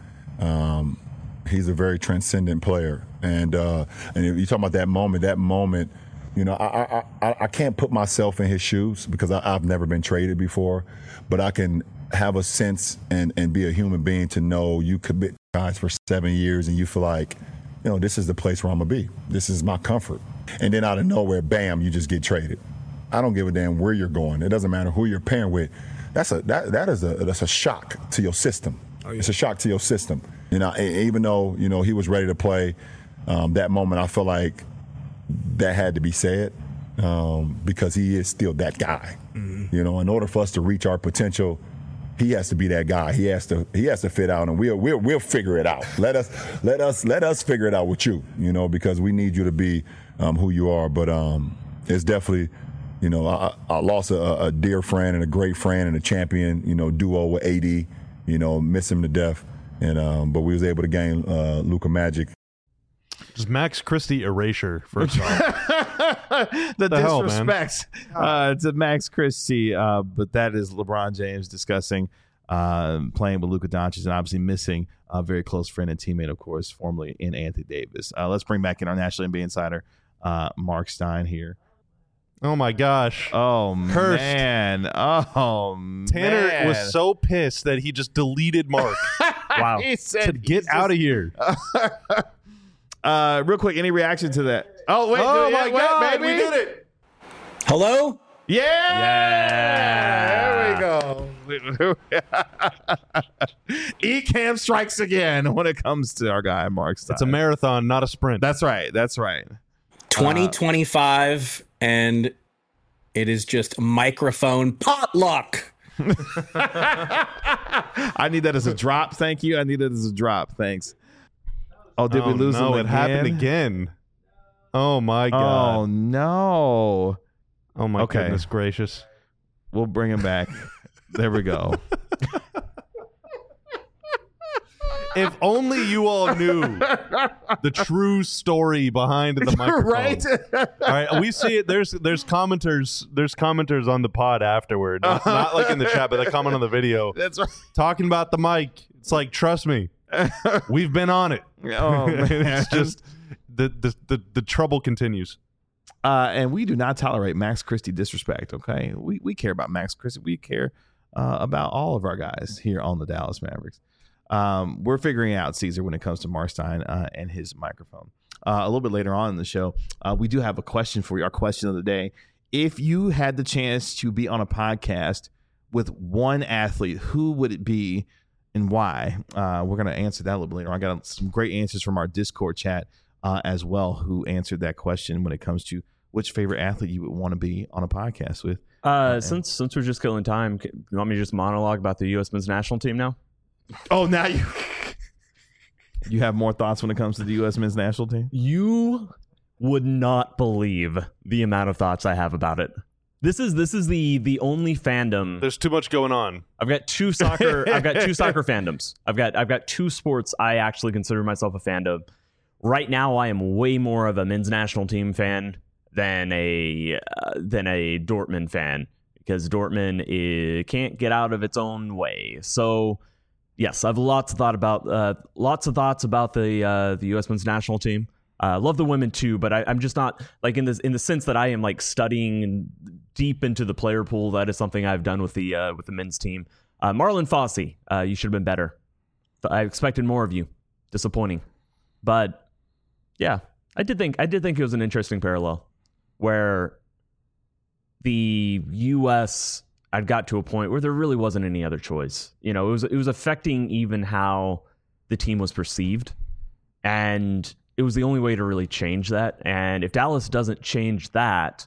He's a very transcendent player, and if you talk about that moment, you know, I can't put myself in his shoes because I've never been traded before, but I can have a sense and be a human being to know you commit guys for 7 years and you feel like, you know, this is the place where I'm gonna be. This is my comfort, and then out of nowhere, bam, you just get traded. I don't give a damn where you're going. It doesn't matter who you're pairing with. That's a shock to your system. Oh, yeah. It's a shock to your system. You know, even though, you know, he was ready to play, that moment I feel like that had to be said because he is still that guy. Mm-hmm. You know, in order for us to reach our potential, he has to be that guy. He has to fit out, and we'll figure it out. Let us figure it out with you. You know, because we need you to be who you are. But it's definitely. You know, I lost a dear friend and a great friend and a champion, you know, duo with AD, you know, miss him to death. And but we was able to gain Luka Magic. Just Max Christie erasure, first off. the hell, disrespect to Max Christie. But that is LeBron James discussing playing with Luka Doncic and obviously missing a very close friend and teammate, of course, formerly in Anthony Davis. Let's bring back in our National NBA Insider, Mark Stein here. Oh my gosh. Oh Cursed. man. Oh Tanner man. was so pissed that he just deleted Mark. Wow. He said, Said, get out of here. Real quick, any reaction to that? Oh wait! Oh yeah, my wait, God, baby. we did it. Hello? Yeah. There we go. Ecamm strikes again when it comes to our guy Mark Stein. It's a marathon, not a sprint. That's right. That's right. 2025, and it is just microphone potluck. I need that as a drop. Thank you. I need that as a drop. Thanks. Oh, did we lose him No, again? it happened again. Oh my Oh God. no. Oh my Okay. goodness gracious. We'll bring him back. There we go. If only you all knew the true story behind the microphone. Right? All right, we see it. There's commenters on the pod afterward, not like in the chat, but they comment on the video That's right. talking about the mic. It's like, trust me, we've been on it. Oh man. It's just the trouble continues. And we do not tolerate Max Christie disrespect. Okay, we care about Max Christie. We care about all of our guys here on the Dallas Mavericks. We're figuring out Caesar when it comes to Mark Stein and his microphone. A little bit later on in the show, we do have a question for you. Our question of the day: if you had the chance to be on a podcast with one athlete, who would it be and why? We're going to answer that a little bit later. I got some great answers from our Discord chat as well, who answered that question when it comes to which favorite athlete you would want to be on a podcast with. Since we're just killing time, you want me to just monologue about the U.S. men's national team now? Oh, now you have more thoughts when it comes to the U.S. men's national team? You would not believe the amount of thoughts I have about it. This is the only fandom. There's too much going on. I've got two soccer fandoms. I've got two sports I actually consider myself a fan of. Right now, I am way more of a men's national team fan than a Dortmund fan, because Dortmund can't get out of its own way. So yes, I have lots of thoughts about the U.S. men's national team. Love the women too, but I'm just not like in the sense that I am like studying deep into the player pool. That is something I've done with the men's team. Marlon Fosse, you should have been better. I expected more of you. Disappointing, but yeah, I did think it was an interesting parallel where the U.S. had got to a point where there really wasn't any other choice. You know, it was affecting even how the team was perceived, and it was the only way to really change that. And if Dallas doesn't change that,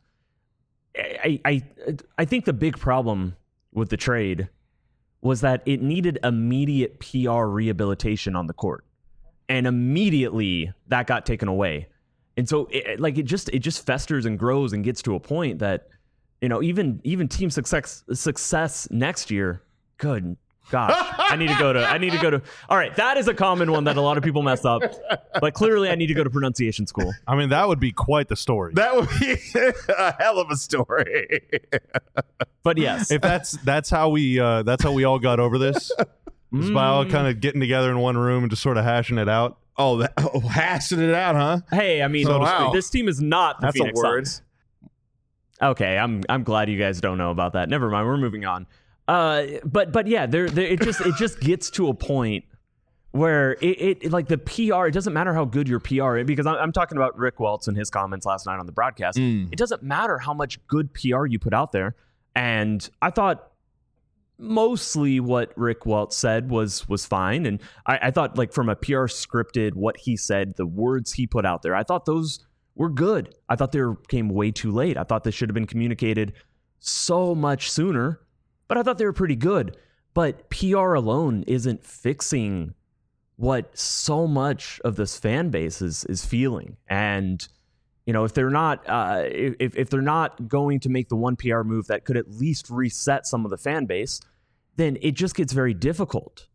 I think the big problem with the trade was that it needed immediate PR rehabilitation on the court, and immediately that got taken away. And so it just festers and grows and gets to a point that, you know, even team success next year. Good gosh, I need to go to. All right, that is a common one that a lot of people mess up, but clearly I need to go to pronunciation school. I mean, that would be quite the story. That would be a hell of a story. But yes, If that's how we all got over this, is by all kind of getting together in one room and just sort of hashing it out. Hashing it out, huh? hey, I mean, So, wow. this team is not the That's Phoenix a word. Suns. Okay, I'm glad you guys don't know about that. Never mind, we're moving on. But yeah, it just gets to a point where it like the PR. It doesn't matter how good your PR is, because I'm talking about Rick Welts and his comments last night on the broadcast. It doesn't matter how much good PR you put out there, and I thought mostly what Rick Welts said was fine, and I thought, like, from a PR scripted, what he said, the words he put out there, I thought those were good. I thought they came way too late. I thought this should have been communicated so much sooner, but I thought they were pretty good. But PR alone isn't fixing what so much of this fan base is feeling. And, you know, if they're not if they're not going to make the one PR move that could at least reset some of the fan base, then it just gets very difficult.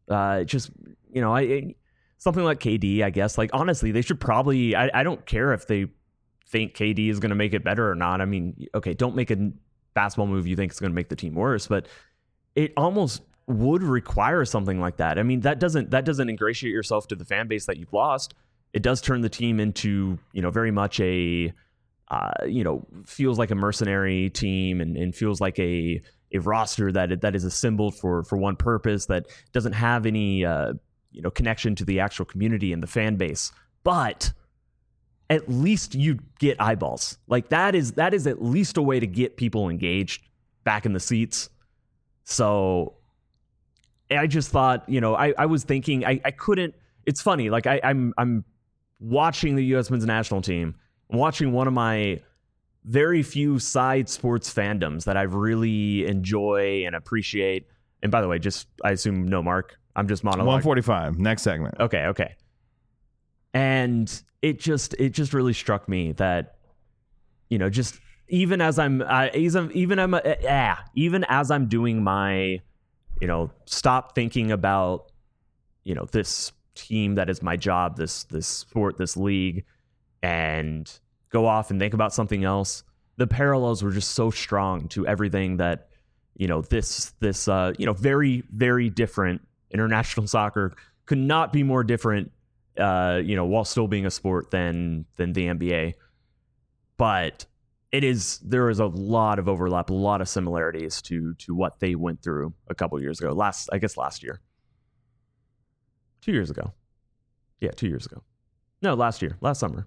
Something like KD, I guess. Like, honestly, they should probably. I don't care if they think KD is going to make it better or not. I mean, okay, don't make a basketball move you think is going to make the team worse, but it almost would require something like that. I mean, that doesn't ingratiate yourself to the fan base that you've lost. It does turn the team into, you know, very much a feels like a mercenary team and feels like a roster that is assembled for one purpose, that doesn't have any connection to the actual community and the fan base. But at least you get eyeballs. Like that is at least a way to get people engaged back in the seats. So I just thought, I was thinking I couldn't. It's funny. Like I'm watching the U.S. men's national team. I'm watching one of my very few side sports fandoms that I really enjoy and appreciate. And by the way, I assume no Mark. I'm just monologuing. 145. Next segment. Okay. And it just really struck me that, just even as I'm doing my, stop thinking about, this team that is my job, this sport, this league, and go off and think about something else. The parallels were just so strong to everything that, this very, very different international soccer could not be more different, while still being a sport than the NBA. But there is a lot of overlap, a lot of similarities to what they went through a couple years ago. Last year. 2 years ago. Yeah, 2 years ago. No, last summer.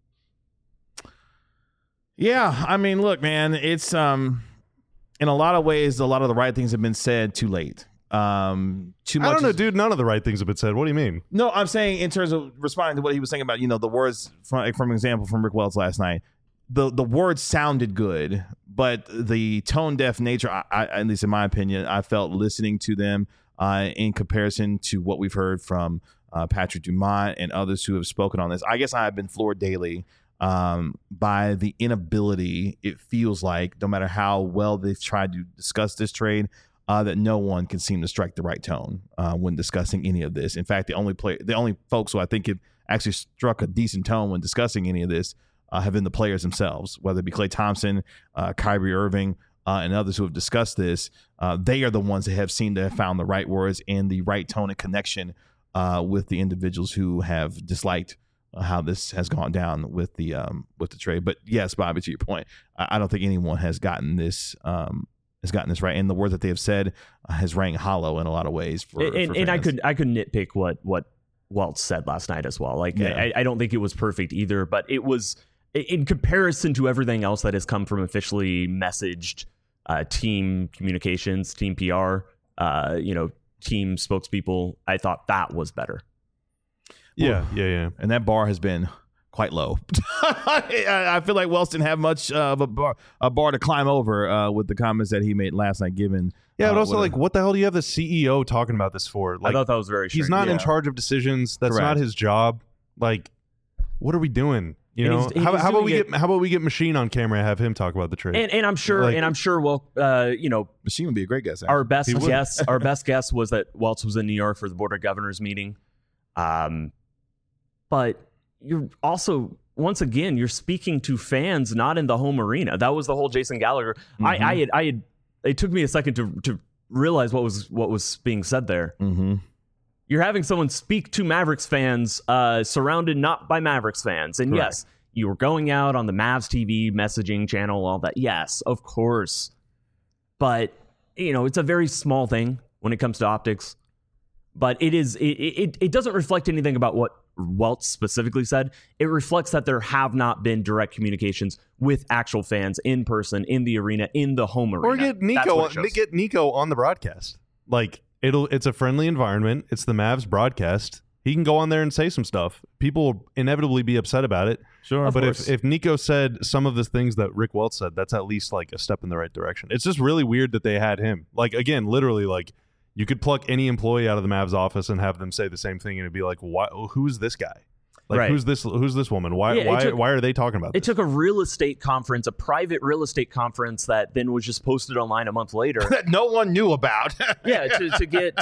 Yeah, I mean, look, man, it's in a lot of ways, a lot of the right things have been said too late. Too much. I don't know, dude. None of the right things have been said. What do you mean? No, I'm saying in terms of responding to what he was saying about, the words from example from Rick Welts last night. The words sounded good, but the tone deaf nature, I, at least in my opinion, I felt listening to them in comparison to what we've heard from Patrick Dumont and others who have spoken on this. I guess I have been floored daily by the inability, it feels like, no matter how well they've tried to discuss this trade, that no one can seem to strike the right tone when discussing any of this. In fact, the only folks who I think have actually struck a decent tone when discussing any of this have been the players themselves, whether it be Klay Thompson, Kyrie Irving, and others who have discussed this. They are the ones that have seemed to have found the right words and the right tone and connection with the individuals who have disliked how this has gone down with the trade. But yes, Bobby, to your point, I don't think anyone has gotten this right, and the words that they have said has rang hollow in a lot of ways. And I could nitpick what Welts said last night as well. Like, yeah. I don't think it was perfect either, but it was, in comparison to everything else that has come from officially messaged team communications, team PR, team spokespeople, I thought that was better. Yeah. And that bar has been quite low. I feel like Wells didn't have much of a bar to climb over with the comments that he made last night. Given, but also, what the hell do you have the CEO talking about this for? I thought that was very strange. He's not in charge of decisions. That's not his job. Like, what are we doing? How about we get Machine on camera and have him talk about the trade? And I'm sure, Machine would be a great guest. Our best guess was that Welts was in New York for the Board of Governors meeting. But you're also, once again, you're speaking to fans not in the home arena. That was the whole Jason Gallagher. Mm-hmm. It took me a second to realize what was being said there. Mm-hmm. You're having someone speak to Mavericks fans, surrounded not by Mavericks fans. And Correct. Yes, you were going out on the Mavs TV messaging channel, all that. Yes, of course. But, it's a very small thing when it comes to optics. But it doesn't reflect anything about what Welts specifically said. It reflects that there have not been direct communications with actual fans in person, in the arena, in the home arena. Or get Nico on the broadcast. Like, it's a friendly environment. It's the Mavs broadcast. He can go on there and say some stuff. People will inevitably be upset about it. Sure, but if Nico said some of the things that Rick Welts said, that's at least like a step in the right direction. It's just really weird that they had him. Like, again, literally, like, you could pluck any employee out of the Mavs office and have them say the same thing, and it'd be like, "Why? Who's this guy? Like, right. Who's this woman? Why are they talking about this?" It took a real estate conference, a private real estate conference that then was just posted online a month later that no one knew about. Yeah, to get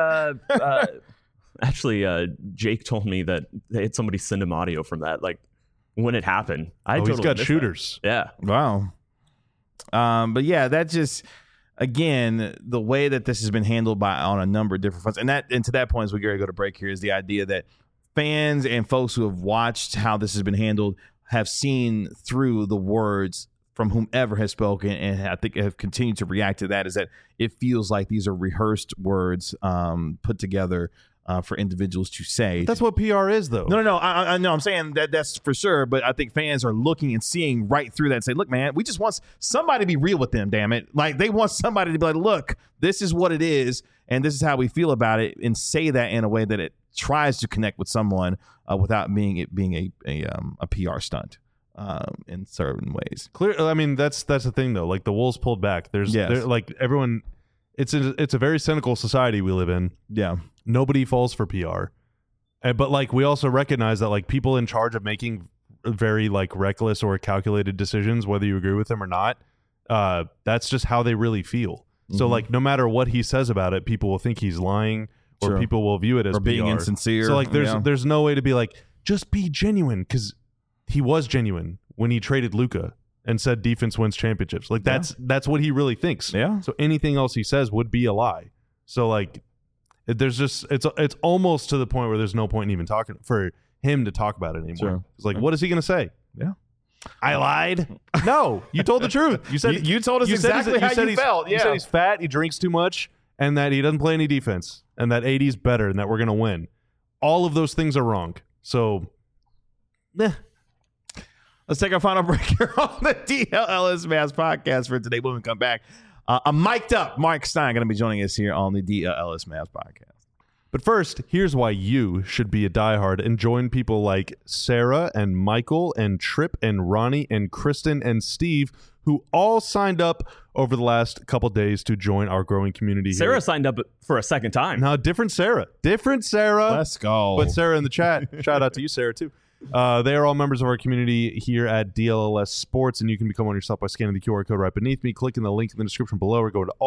actually, Jake told me that they had somebody send him audio from that, like when it happened. He's got shooters. That. Yeah. Wow. But yeah, that just. Again, the way that this has been handled on a number of different fronts, and to that point, as we go to break here, is the idea that fans and folks who have watched how this has been handled have seen through the words from whomever has spoken, and I think have continued to react to that, is that it feels like these are rehearsed words put together for individuals to say. That's what PR is, though. No. I know. I'm saying that's for sure. But I think fans are looking and seeing right through that and say, look, man, we just want somebody to be real with them, damn it. Like, they want somebody to be like, look, this is what it is, and this is how we feel about it, and say that in a way that it tries to connect with someone without being a PR stunt in certain ways. Clear. I mean, that's the thing, though. Like, the Wolves pulled back. Like, everyone. It's a very cynical society we live in. Yeah. Nobody falls for PR. But like, we also recognize that like people in charge of making very like reckless or calculated decisions, whether you agree with them or not, that's just how they really feel. So like, no matter what he says about it, people will think he's lying, or people will view it as or being PR. insincere. So like, there's no way to be like, just be genuine, because he was genuine when he traded Luka and said defense wins championships. Like, that's what he really thinks. Yeah. So anything else he says would be a lie. So like, there's just it's almost to the point where there's no point in even talking for him to talk about it anymore. Sure. It's like, what is he going to say? Yeah. I lied. No, you told the truth. You said you told us exactly how you felt. Yeah. You said he's fat, he drinks too much, and that he doesn't play any defense, and that AD's better, and that we're going to win. All of those things are wrong. So, let's take our final break here on the DLLS Mavs podcast for today. When we come back, a mic'd up Mark Stein going to be joining us here on the DLLS Mavs podcast. But first, here's why you should be a diehard and join people like Sarah and Michael and Trip and Ronnie and Kristen and Steve, who all signed up over the last couple days to join our growing community. Sarah signed up for a second time. No, different Sarah. Let's go. But Sarah in the chat, shout out to you, Sarah, too. They are all members of our community here at DLLS Sports, and you can become one yourself by scanning the QR code right beneath me, clicking the link in the description below, or go to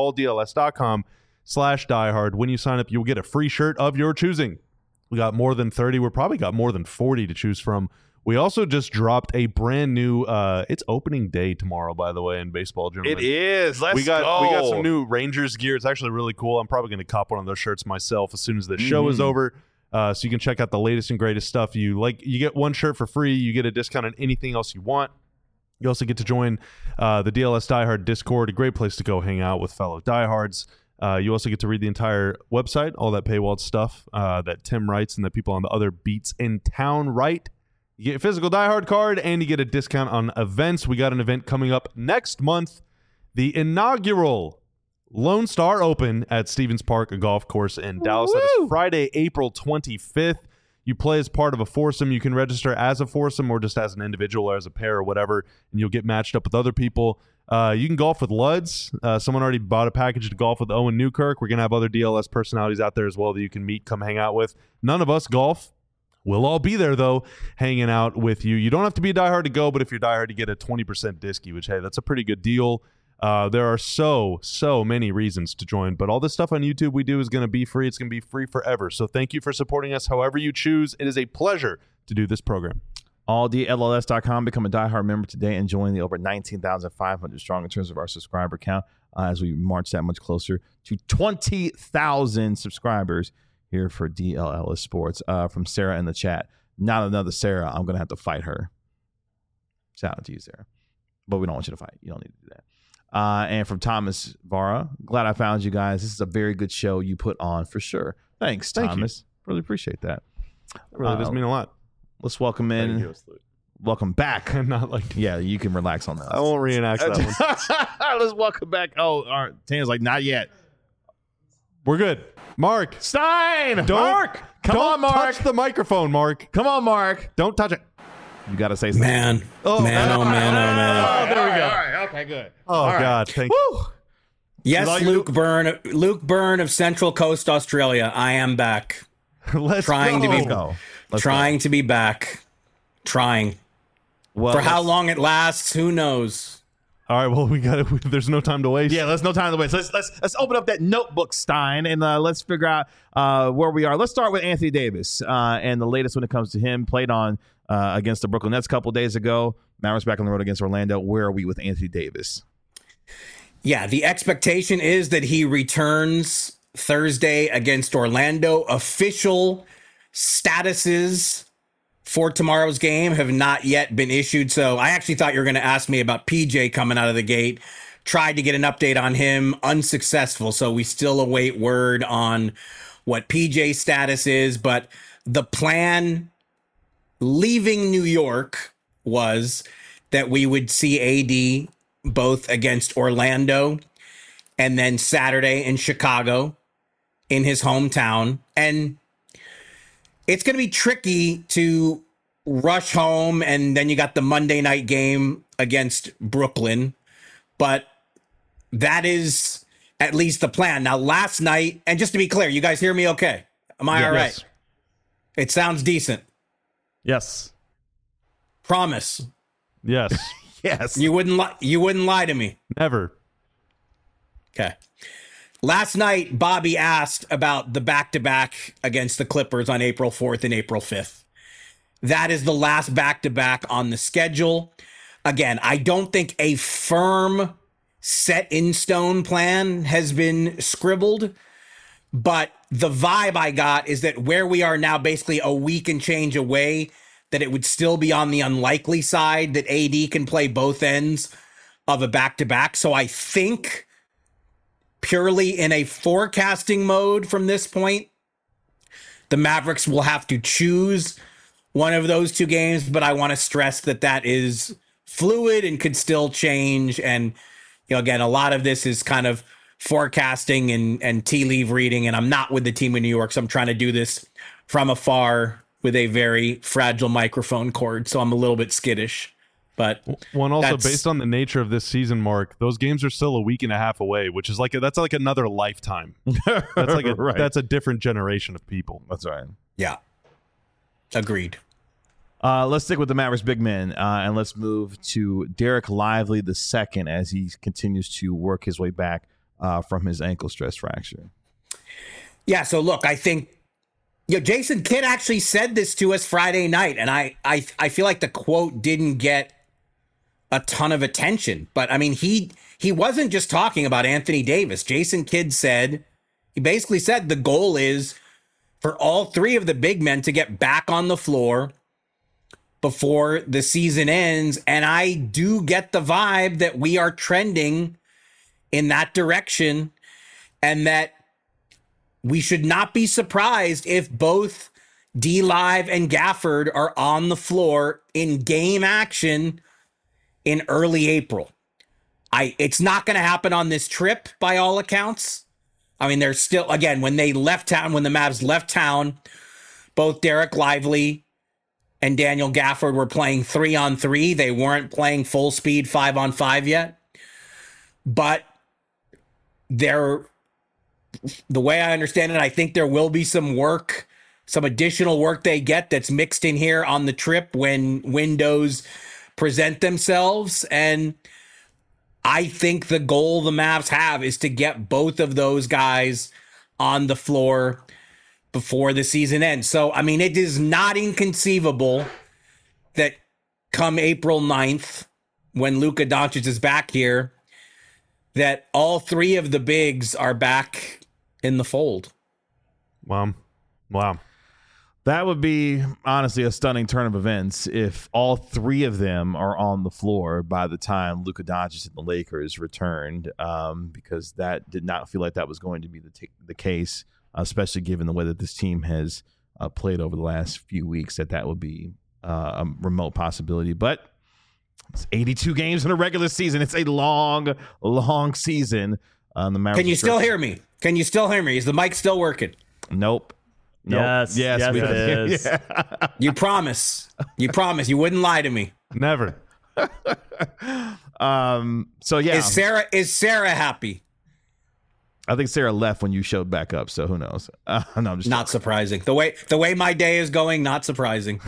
alldls.com/diehard. When you sign up, you'll get a free shirt of your choosing. We got more than 30. We're probably got more than 40 to choose from. We also just dropped a brand new, it's opening day tomorrow, by the way, in baseball, gentlemen. It is. We got some new Rangers gear. It's actually really cool. I'm probably going to cop one of those shirts myself as soon as the show is over. So you can check out the latest and greatest stuff. You get one shirt for free. You get a discount on anything else you want. You also get to join the DLS Diehard Discord, a great place to go hang out with fellow diehards. You also get to read the entire website, all that paywalled stuff that Tim writes and that people on the other beats in town write. You get a physical diehard card, and you get a discount on events. We got an event coming up next month, the inaugural Lone Star Open at Stevens Park, a golf course in Dallas. That is Friday, April 25th. You play as part of a foursome. You can register as a foursome or just as an individual or as a pair or whatever, and you'll get matched up with other people. You can golf with Luds. Someone already bought a package to golf with Owen Newkirk. We're going to have other DLS personalities out there as well that you can meet, come hang out with. None of us golf. We'll all be there, though, hanging out with you. You don't have to be a diehard to go, but if you're diehard, you get a 20% discount, which, hey, that's a pretty good deal. There are so many reasons to join, but all this stuff on YouTube we do is going to be free. It's going to be free forever. So thank you for supporting us however you choose. It is a pleasure to do this program. AllDLLS.com. Become a diehard member today and join the over 19,500 strong in terms of our subscriber count as we march that much closer to 20,000 subscribers here for DLLS Sports. From Sarah in the chat. Not another Sarah. I'm going to have to fight her. Shout out to you, Sarah. But we don't want you to fight. You don't need to do that. And from Thomas Vara, glad I found you guys. This is a very good show you put on for sure. Thanks, Thomas. Really appreciate that. That really does mean a lot. Let's welcome in. Welcome back. Not like yeah, you can relax on that. I won't reenact that one. Let's welcome back. Oh, all right. Tan's like, not yet. We're good. Mark Stein. Mark, come on, Mark. Touch the microphone, Mark. Come on, Mark. Don't touch it. You got to say something. Man. Oh, man. Oh, there we go. All right. Okay, good. Oh, all God. Right. Thank you. Yes, Luke Byrne of Central Coast, Australia. I am back. Let's trying go. To be back. Trying. Well, for how long it lasts, who knows? All right, well, there's no time to waste. Yeah, there's no time to waste. Let's open up that notebook, Stein, and let's figure out where we are. Let's start with Anthony Davis and the latest when it comes to him. Played on against the Brooklyn Nets a couple days ago. Mavericks back on the road against Orlando. Where are we with Anthony Davis? Yeah, the expectation is that he returns Thursday against Orlando. Official statuses for tomorrow's game have not yet been issued. So I actually thought you were going to ask me about PJ coming out of the gate. Tried to get an update on him, unsuccessful. So we still await word on what PJ's status is. But the plan leaving New York was that we would see AD both against Orlando and then Saturday in Chicago in his hometown. And it's going to be tricky to rush home, and then you got the Monday night game against Brooklyn. But that is at least the plan. Now, last night, and just to be clear, you guys hear me okay? Am I all right? Yes. It sounds decent. Yes. Promise. Yes. Yes. You wouldn't lie to me. Never. Okay. Last night, Bobby asked about the back-to-back against the Clippers on April 4th and April 5th. That is the last back-to-back on the schedule. Again, I don't think a firm set-in-stone plan has been scribbled, but the vibe I got is that where we are now, basically a week and change away, that it would still be on the unlikely side that AD can play both ends of a back-to-back. So I think purely in a forecasting mode from this point, the Mavericks will have to choose one of those two games, but I want to stress that that is fluid and could still change. And, you know, again, a lot of this is kind of forecasting and tea leaf reading, and I'm not with the team in New York, so I'm trying to do this from afar with a very fragile microphone cord, so I'm a little bit skittish. But one also, that's- based on the nature of this season, Mark, those games are still a week and a half away, which is that's like another lifetime. That's like Right. that's a different generation of people. That's right. yeah, agreed. Let's stick with the Mavericks big men, and let's move to Derek Lively II as he continues to work his way back from his ankle stress fracture. Yeah, so look, I think Jason Kidd actually said this to us Friday night, and I feel like the quote didn't get a ton of attention. But I mean, he wasn't just talking about Anthony Davis. Jason Kidd he basically said the goal is for all three of the big men to get back on the floor before the season ends. And I do get the vibe that we are trending in that direction, and that we should not be surprised if both D-Live and Gafford are on the floor in game action in early April. It's not going to happen on this trip by all accounts. I mean, there's still, again, when the Mavs left town, both Derek Lively and Daniel Gafford were playing 3-on-3. They weren't playing full speed 5-on-5 yet. But the way I understand it, I think there will be some additional work they get that's mixed in here on the trip when windows present themselves. And I think the goal the Mavs have is to get both of those guys on the floor before the season ends. So, I mean, it is not inconceivable that come April 9th, when Luka Doncic is back here, that all three of the bigs are back in the fold. Wow. That would be, honestly, a stunning turn of events if all three of them are on the floor by the time Luka Doncic and the Lakers returned, because that did not feel like that was going to be the case, especially given the way that this team has played over the last few weeks, that would be a remote possibility. But it's 82 games in a regular season. It's a long, long season. The Mavericks. Can you still hear me? Is the mic still working? Nope. Yes, we it did. is. Yeah. You promise. You wouldn't lie to me. Never. So yeah, Is Sarah happy? I think Sarah left when you showed back up. So who knows? No, I'm just Not surprising. The way my day is going, not surprising.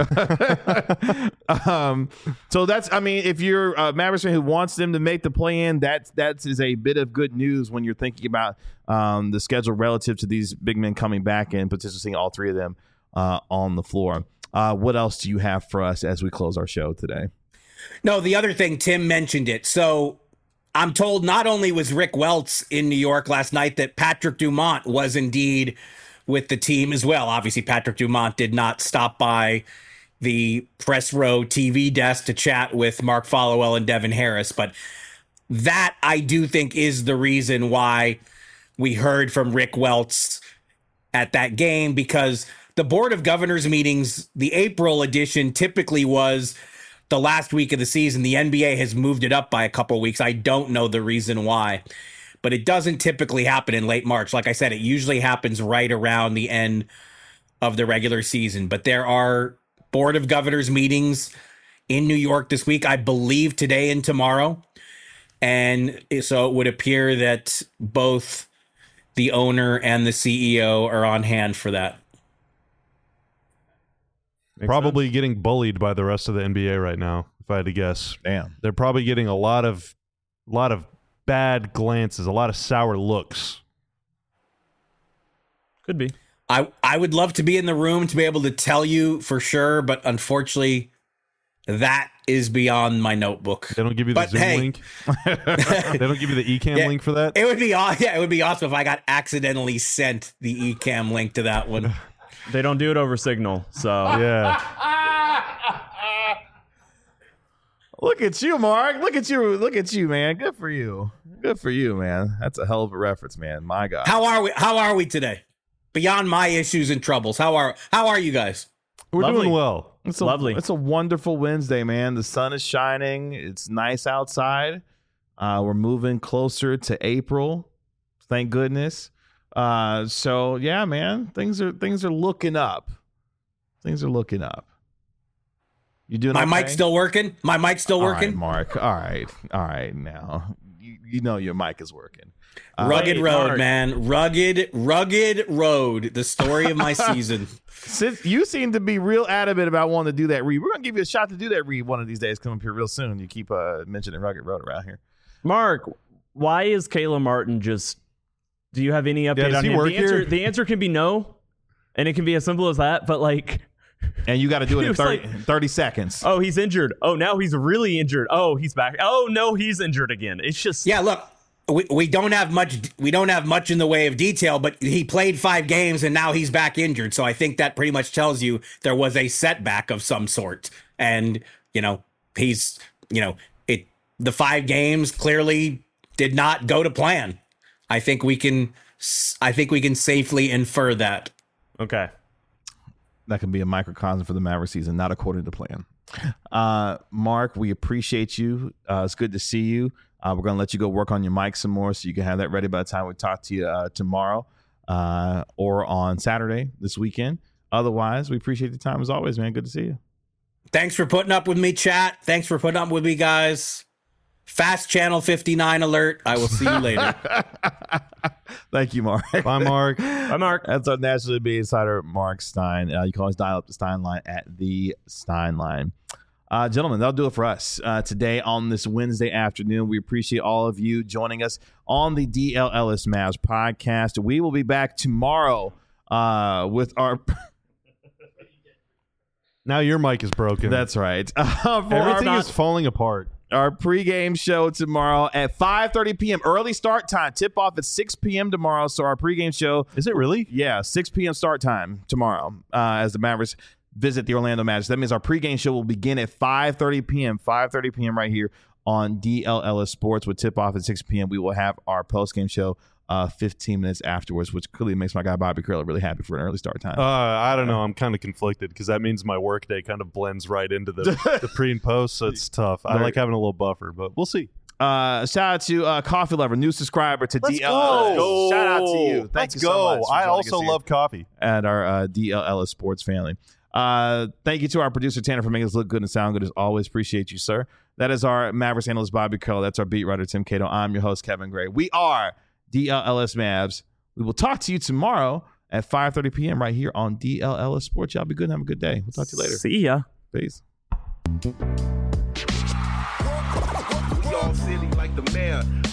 So that's, I mean, if you're a Mavericks fan who wants them to make the play in, that is a bit of good news when you're thinking about the schedule relative to these big men coming back and potentially seeing all three of them on the floor. What else do you have for us as we close our show today? No, the other thing, Tim mentioned it. So I'm told not only was Rick Welts in New York last night, that Patrick Dumont was indeed with the team as well. Obviously, Patrick Dumont did not stop by the press row TV desk to chat with Mark Followell and Devin Harris. But that, I do think, is the reason why we heard from Rick Welts at that game, because the Board of Governors meetings, the April edition, typically was the last week of the season. The NBA has moved it up by a couple of weeks. I don't know the reason why, but it doesn't typically happen in late March. Like I said, it usually happens right around the end of the regular season. But there are Board of Governors meetings in New York this week, I believe today and tomorrow. And so it would appear that both the owner and the CEO are on hand for that. Probably getting bullied by the rest of the NBA right now, if I had to guess. Damn. They're probably getting a lot of bad glances, a lot of sour looks. Could be. I would love to be in the room to be able to tell you for sure, but unfortunately, that is beyond my notebook. They don't give you the Zoom link? They don't give you the eCam link for that? It would be awesome if I got accidentally sent the eCam link to that one. They don't do it over Signal, so Yeah. Look at you, Mark. Look at you, man. Good for you. Good for you, man. That's a hell of a reference, man. My God. How are we today? Beyond my issues and troubles, how are you guys? We're Lovely. doing well. It's Lovely. It's a wonderful Wednesday, man. The sun is shining. It's nice outside. We're moving closer to April. Thank goodness. So yeah, man, things are looking up. Things are looking up. You doing My okay? mic's still working? My mic's still working? All right, Mark. All right. Now you know your mic is working. Rugged Wait, road, Mark. man. Rugged road. The story of my season. Since you seem to be real adamant about wanting to do that read, we're gonna give you a shot to do that read one of these days. Come up here real soon. You keep mentioning Rugged Road around here. Mark, why is Kayla Martin just? Do you have any update does on he him? work The answer, here? the answer can be no, and it can be as simple as that. But like, And you got to do it He in was 30 seconds. oh, he's injured. Oh, now he's really injured. Oh, he's back. Oh no, he's injured again. It's just Yeah, look, we don't have much. We don't have much in the way of detail, but he played 5 games and now he's back injured. So I think that pretty much tells you there was a setback of some sort. And he's the 5 games clearly did not go to plan. I think we can safely infer that. okay. That can be a microcosm for the Maverick season, not according to plan. Mark, we appreciate you. It's good to see you. We're going to let you go work on your mic some more so you can have that ready by the time we talk to you tomorrow or on Saturday this weekend. Otherwise, we appreciate the time as always, man. Good to see you. Thanks for putting up with me, chat. Thanks for putting up with me, guys. Fast Channel 59 alert. I will see you later. Thank you, Mark. Bye, Mark. Bye, Mark. That's our National NBA insider, Mark Stein. You can always dial up the Stein line at the Stein line. Gentlemen, that'll do it for us today on this Wednesday afternoon. We appreciate all of you joining us on the DLLS Mavs podcast. We will be back tomorrow with our... Now your mic is broken. That's right. Everything is falling apart. Our pregame show tomorrow at 5:30 p.m. Early start time. Tip off at 6 p.m. tomorrow. So our pregame show... Is it really? Yeah, 6 p.m. start time tomorrow as the Mavericks visit the Orlando Magic. That means our pregame show will begin at 5:30 p.m. 5:30 p.m. right here on DLLS Sports with tip-off at 6 p.m. We will have our postgame show 15 minutes afterwards, which clearly makes my guy Bobby Curler really happy for an early start time. I don't know. I'm kind of conflicted because that means my workday kind of blends right into the pre and post, so it's tough. I like having a little buffer, but we'll see. Shout out to Coffee Lover, new subscriber to Let's DLLS. go. Shout out to you. Thank Let's you so go. much for I joining also us here love coffee. at our DLLS Sports family. Thank you to our producer Tanner for making us look good and sound good as always. Appreciate you, sir. That is our Mavericks analyst Bobby Curl. That's our beat writer Tim Cato. I'm your host Kevin Gray. We are DLLS Mavs. We will talk to you tomorrow at 5:30 p.m. right here on DLLS Sports. Y'all be good and have a good day. We'll talk to you later. See ya. Peace. We all silly like the mayor.